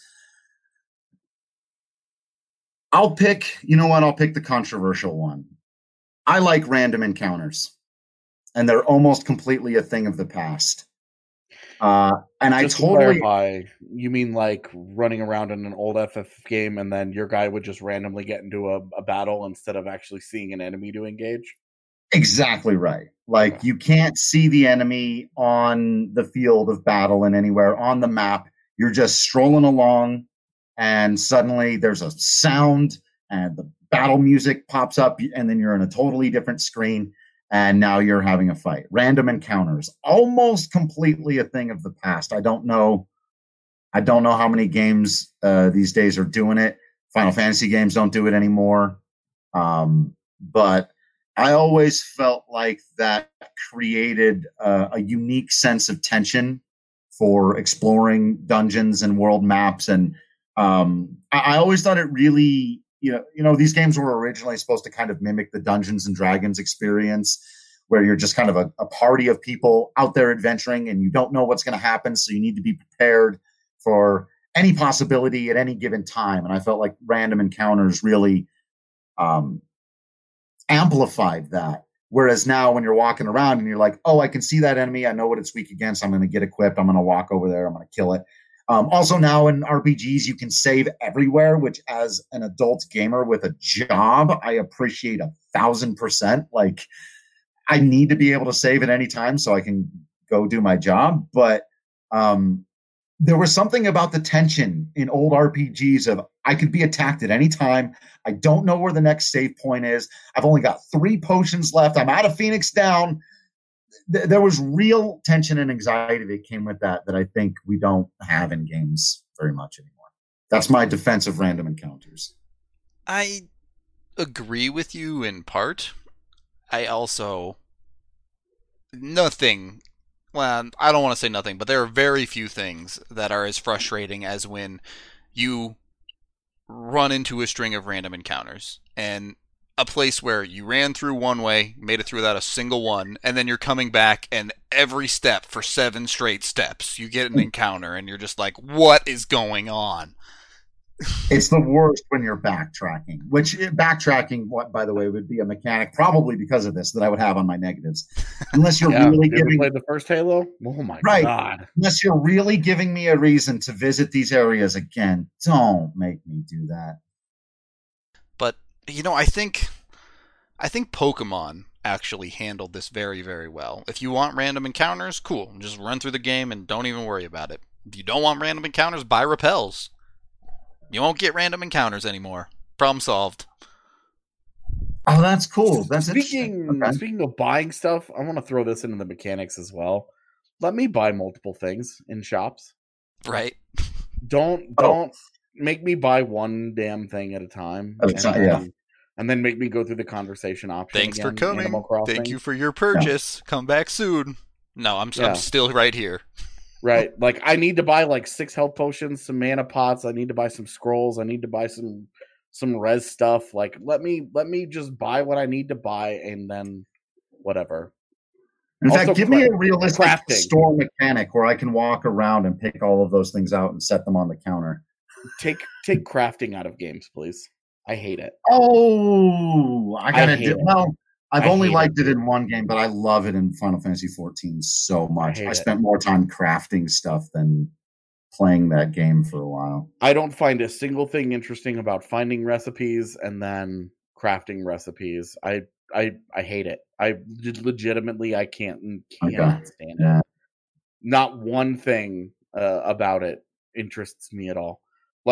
I'll pick the controversial one. I like random encounters, and they're almost completely a thing of the past. And just to clarify, you mean like running around in an old FF game and then your guy would just randomly get into a battle instead of actually seeing an enemy to engage? Exactly right. Like you can't see the enemy on the field of battle and anywhere on the map. You're just strolling along and suddenly there's a sound and the battle music pops up and then you're in a totally different screen and now you're having a fight. Random encounters, almost completely a thing of the past. I don't know how many games these days are doing it. Final Fantasy games don't do it anymore. But I always felt like that created a unique sense of tension for exploring dungeons and world maps. And I always thought it really, these games were originally supposed to kind of mimic the Dungeons and Dragons experience, where you're just kind of a party of people out there adventuring and you don't know what's going to happen. So you need to be prepared for any possibility at any given time. And I felt like random encounters really amplified that. Whereas now when you're walking around and you're like, oh, I can see that enemy. I know what it's weak against. I'm going to get equipped. I'm going to walk over there. I'm going to kill it. Also now in RPGs, you can save everywhere, which as an adult gamer with a job, I appreciate 1,000%. Like I need to be able to save at any time so I can go do my job. But there was something about the tension in old RPGs of I could be attacked at any time. I don't know where the next save point is. I've only got 3 potions left. I'm out of Phoenix Down. There was real tension and anxiety that came with that I think we don't have in games very much anymore. That's my defense of random encounters. I agree with you in part. I also... Nothing... Well, I don't want to say nothing, but there are very few things that are as frustrating as when you run into a string of random encounters and a place where you ran through one way, made it through without a single one, and then you're coming back and every step for 7 straight steps you get an encounter and you're just like, what is going on? It's the worst when you're backtracking, which what, by the way, would be a mechanic probably because of this that I would have on my negatives. Unless you're really giving played the first Halo? Oh my God. Unless you're really giving me a reason to visit these areas again, don't make me do that. But, I think Pokemon actually handled this very, very well. If you want random encounters, cool. Just run through the game and don't even worry about it. If you don't want random encounters, buy repels. You won't get random encounters anymore. Problem solved. Oh, that's cool. That's interesting. Okay. Speaking of buying stuff, I want to throw this into the mechanics as well. Let me buy multiple things in shops. Right. Don't make me buy one damn thing at a time. And then make me go through the conversation option. Thanks again, for coming. Thank you for your purchase. Yeah. Come back soon. No, I'm still right here. Right. Like, I need to buy like 6 health potions, some mana pots. I need to buy some scrolls. I need to buy some res stuff. Like, let me just buy what I need to buy, and then whatever. In fact, give me a realistic store mechanic where I can walk around and pick all of those things out and set them on the counter. Take crafting out of games, please. I hate it. Oh, I gotta do. Well, I've only liked it in one game, but I love it in Final Fantasy XIV so much. I spent more time crafting stuff than playing that game for a while. I don't find a single thing interesting about finding recipes and then crafting recipes. I hate it. I legitimately I can't stand it. Not one thing about it interests me at all.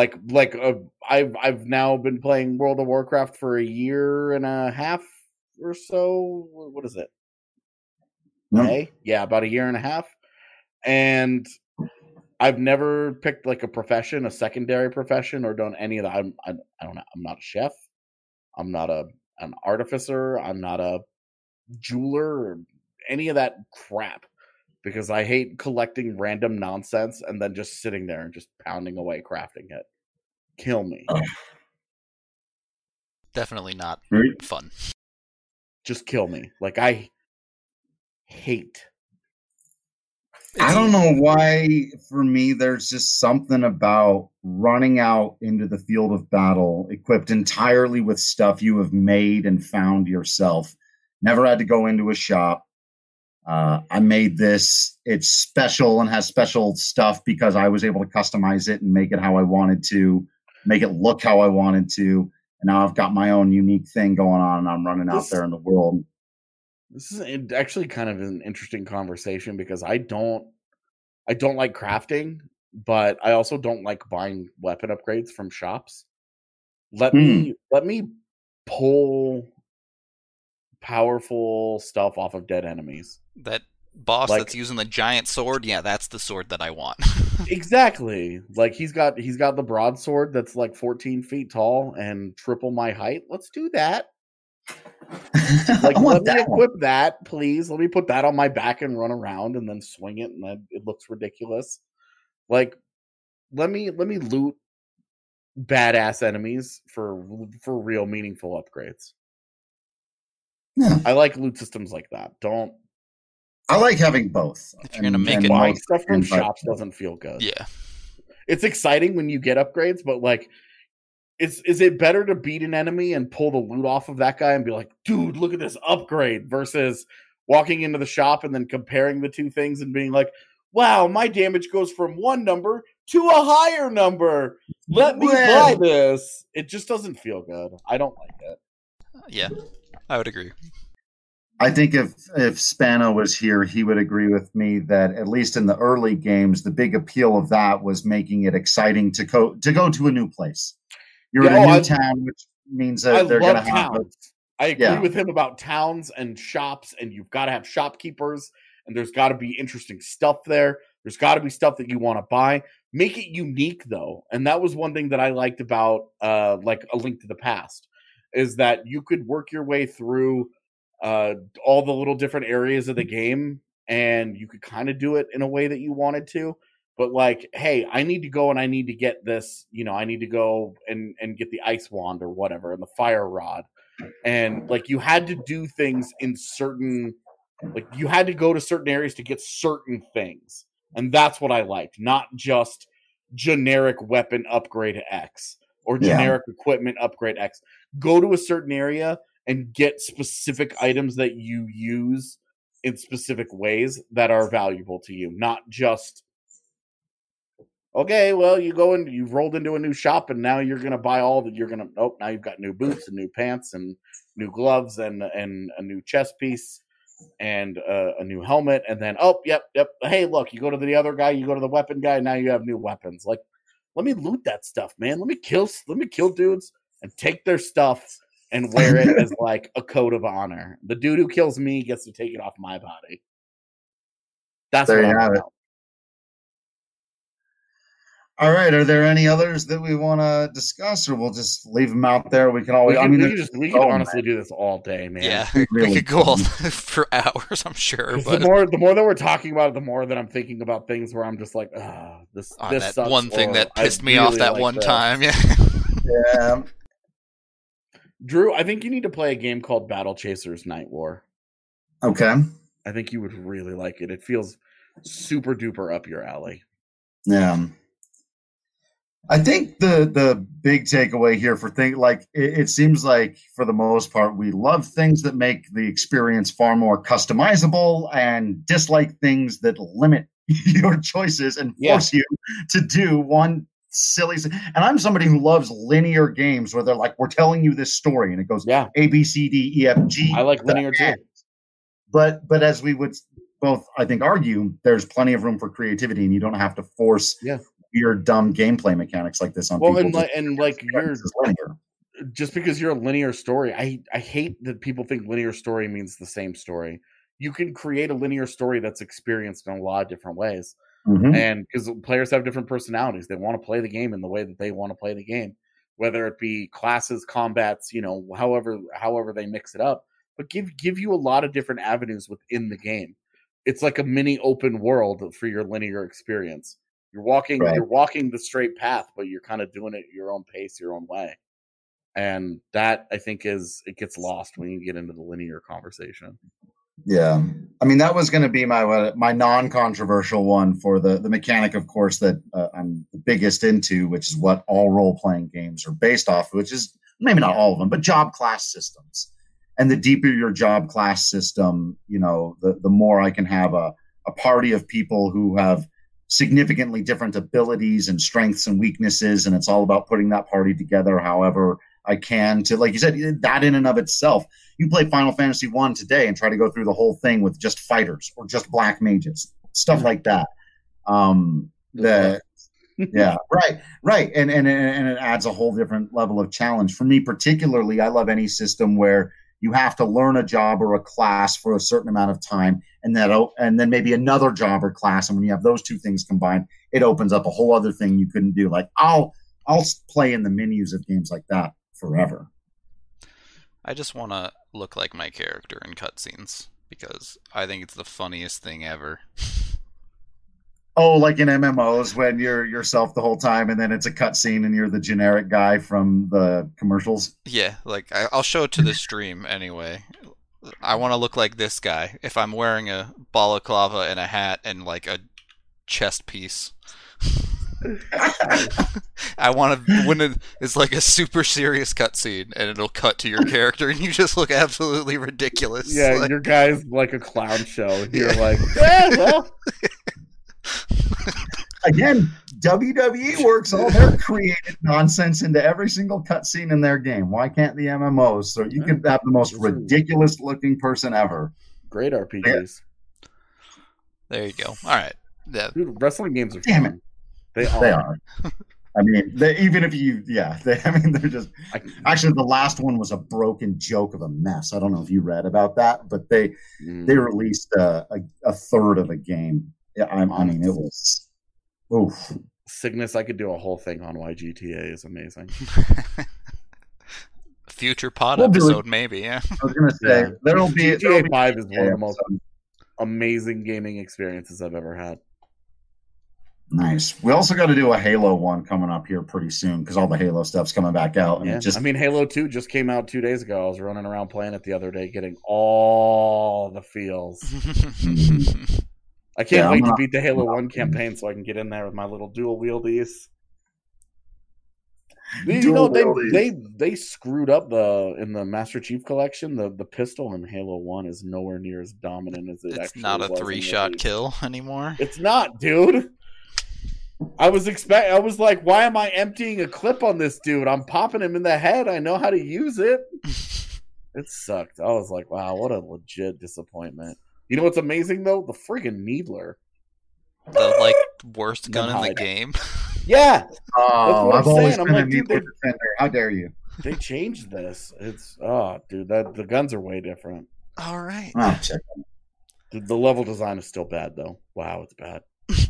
I've now been playing World of Warcraft for a year and a half or so. What is it? May? Yeah, about a year and a half. And I've never picked like a profession, a secondary profession, or done any of that. I don't know. I'm not a chef. I'm not an artificer. I'm not a jeweler or any of that crap, because I hate collecting random nonsense and then just sitting there and just pounding away crafting it. Kill me. Definitely not fun. Just kill me. Like, I hate. I don't know why, for me, there's just something about running out into the field of battle equipped entirely with stuff you have made and found yourself. Never had to go into a shop. I made this. It's special and has special stuff because I was able to customize it and make it how I wanted to, make it look how I wanted to. And now I've got my own unique thing going on, and I'm running out there in the world. This is actually kind of an interesting conversation, because I don't like crafting, but I also don't like buying weapon upgrades from shops. Let me pull powerful stuff off of dead enemies. That boss that's using the giant sword, yeah, that's the sword that I want. Exactly. Like, he's got the broadsword that's like 14 feet tall and triple my height. Let's do that. Like, let me equip that, please. Let me put that on my back and run around and then swing it, and it looks ridiculous. Like, let me loot badass enemies for real meaningful upgrades. Yeah. I like loot systems like that. I like having both. If you're gonna make it, buying stuff from shops doesn't feel good. Yeah, it's exciting when you get upgrades, but like, is it better to beat an enemy and pull the loot off of that guy and be like, dude, look at this upgrade, versus walking into the shop and then comparing the two things and being like, wow, my damage goes from one number to a higher number. Let me buy this. It just doesn't feel good. I don't like it. Yeah, I would agree. I think if Spano was here, he would agree with me that at least in the early games, the big appeal of that was making it exciting to go to a new place. You're in a new town, which means that they're going to have towns. I agree with him about towns and shops, and you've got to have shopkeepers, and there's got to be interesting stuff there. There's got to be stuff that you want to buy. Make it unique, though. And that was one thing that I liked about like A Link to the Past, is that you could work your way through all the little different areas of the game, and you could kind of do it in a way that you wanted to. But like, hey, I need to go and I need to get this, I need to go and get the ice wand or whatever, and the fire rod. And like, you had to do things in certain, like, you had to go to certain areas to get certain things. And that's what I liked. Not just generic weapon upgrade X or generic equipment upgrade X. Go to a certain area and get specific items that you use in specific ways that are valuable to you. Not just, okay, well, you've rolled into a new shop and now you're going to buy now you've got new boots and new pants and new gloves and a new chest piece and a new helmet. And then, yep. Hey, look, you go to the other guy, you go to the weapon guy, and now you have new weapons. Like, let me loot that stuff, man. Let me kill dudes and take their stuff and wear it as like a code of honor. The dude who kills me gets to take it off my body. That's There what you I'm have it. about. All right. Are there any others that we want to discuss, or we'll just leave them out there? We can always. We could honestly do this all day, man. Yeah, really we could go all for hours, I'm sure. But the more that we're talking about it, the more that I'm thinking about things where I'm just like, this that sucks, one thing that I pissed me off really that like one this. time. Yeah. Yeah. Drew, I think you need to play a game called Battle Chasers Night War. Okay. I think you would really like it. It feels super duper up your alley. Yeah. I think the big takeaway here for things like it seems like for the most part we love things that make the experience far more customizable and dislike things that limit your choices and force you to do one silly. And I'm somebody who loves linear games where they're like, we're telling you this story and it goes A, B, C, D, E, F, G. I like linear too. But as we would both, I think, argue, there's plenty of room for creativity and you don't have to force weird, dumb gameplay mechanics like this on people. And you're linear. Just because you're a linear story, I hate that people think linear story means the same story. You can create a linear story that's experienced in a lot of different ways. Mm-hmm. And because players have different personalities, they want to play the game in the way that they want to play the game, whether it be classes, combats, however they mix it up, but give you a lot of different avenues within the game. It's like a mini open world for your linear experience. You're walking the straight path, but you're kind of doing it at your own pace, your own way. And that, I think, it gets lost when you get into the linear conversation. Yeah. I mean, that was going to be my non-controversial one for the mechanic, of course, that I'm the biggest into, which is what all role-playing games are based off, which is maybe not all of them, but job class systems. And the deeper your job class system, the more I can have a party of people who have significantly different abilities and strengths and weaknesses. And it's all about putting that party together however I can to, like you said, that in and of itself. You play Final Fantasy I today and try to go through the whole thing with just fighters or just black mages, stuff like that. Yeah, right. And it adds a whole different level of challenge. For me particularly, I love any system where you have to learn a job or a class for a certain amount of time, and then maybe another job or class. And when you have those two things combined, it opens up a whole other thing you couldn't do. Like I'll play in the menus of games like that forever. I just want to look like my character in cutscenes because I think it's the funniest thing ever. Oh, like in MMOs when you're yourself the whole time and then it's a cutscene and you're the generic guy from the commercials? Yeah, like I'll show it to the stream anyway. I want to look like this guy. If I'm wearing a balaclava and a hat and like a chest piece. I want to when it's like a super serious cutscene and it'll cut to your character and you just look absolutely ridiculous. Yeah, like, your guy's like a clown show. And you're like, yeah, well. Again, WWE works all their created nonsense into every single cutscene in their game. Why can't the MMOs? So you can have the most ridiculous looking person ever. Great RPGs. There you go. All right. Yeah. Dude, wrestling games are Damn fun. it. They are. I mean, they're just. Actually, the last one was a broken joke of a mess. I don't know if you read about that, but they released a third of the game. Yeah, I mean, it was. Oof. Cygnus, I could do a whole thing on why GTA is amazing. Future pod episode, maybe. Yeah. I was gonna say there'll be GTA 5 is one of the most amazing gaming experiences I've ever had. Nice. We also got to do a Halo one coming up here pretty soon because all the Halo stuff's coming back out. And I mean, Halo 2 just came out 2 days ago. I was running around playing it the other day, getting all the feels. I can't wait to beat the Halo 1 campaign so I can get in there with my little dual wieldies. They screwed up in the Master Chief Collection. The pistol in Halo 1 is nowhere near as dominant as it actually was. It's not a 3-shot kill anymore. It's not, dude. I was like, why am I emptying a clip on this dude? I'm popping him in the head. I know how to use it. It sucked. I was like, wow, what a legit disappointment. You know what's amazing though? The friggin' Needler. The worst gun in the game. Yeah. Oh, I've always been a Needler defender. How dare you? They changed this. It's dude, the guns are way different. All right. I'll check it. The level design is still bad though. Wow, it's bad.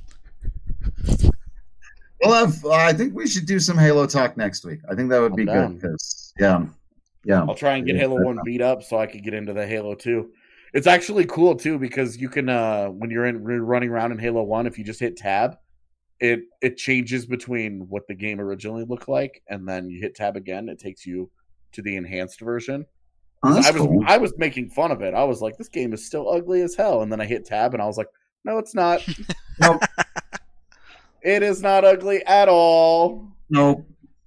Well, I think we should do some Halo talk next week. I think that would be good because yeah. I'll try and get Halo 1 beat up so I can get into the Halo 2. It's actually cool too because you can when you're running around in Halo 1, if you just hit tab, it changes between what the game originally looked like, and then you hit tab again, it takes you to the enhanced version. Oh, I was making fun of it. I was like, this game is still ugly as hell, and then I hit tab and I was like, no, it's not. Nope. It is not ugly at all. Nope.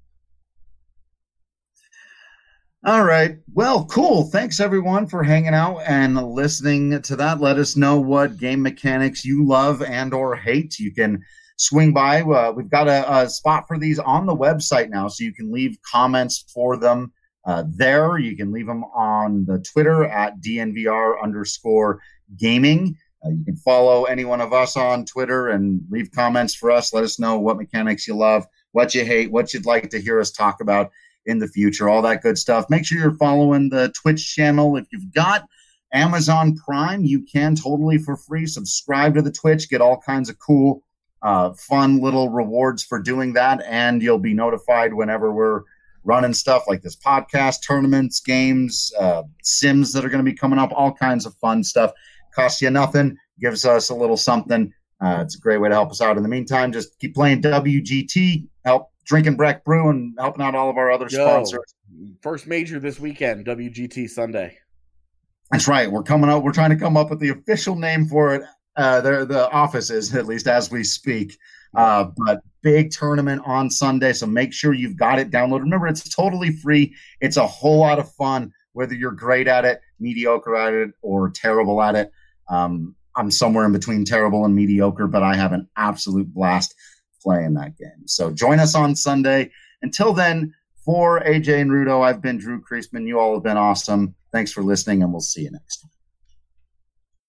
All right. Well, cool. Thanks, everyone, for hanging out and listening to that. Let us know what game mechanics you love and or hate. You can swing by. We've got a spot for these on the website now, so you can leave comments for them there. You can leave them on the Twitter at DNVR_gaming. You can follow any one of us on Twitter and leave comments for us. Let us know what mechanics you love, what you hate, what you'd like to hear us talk about in the future, all that good stuff. Make sure you're following the Twitch channel. If you've got Amazon Prime, you can totally for free subscribe to the Twitch, get all kinds of cool, fun little rewards for doing that, and you'll be notified whenever we're running stuff like this podcast, tournaments, games, Sims that are going to be coming up, all kinds of fun stuff. Costs you nothing, gives us a little something. It's a great way to help us out. In the meantime, just keep playing WGT, help drinking Breck Brew, and helping out all of our other sponsors. First major this weekend, WGT Sunday. That's right. We're coming up. We're trying to come up with the official name for it. The office is, at least as we speak. But big tournament on Sunday, so make sure you've got it downloaded. Remember, it's totally free. It's a whole lot of fun, whether you're great at it, mediocre at it, or terrible at it. I'm somewhere in between terrible and mediocre, but I have an absolute blast playing that game. So join us on Sunday. Until then, for AJ and Rudo, I've been Drew Creasman. You all have been awesome. Thanks for listening, and we'll see you next time.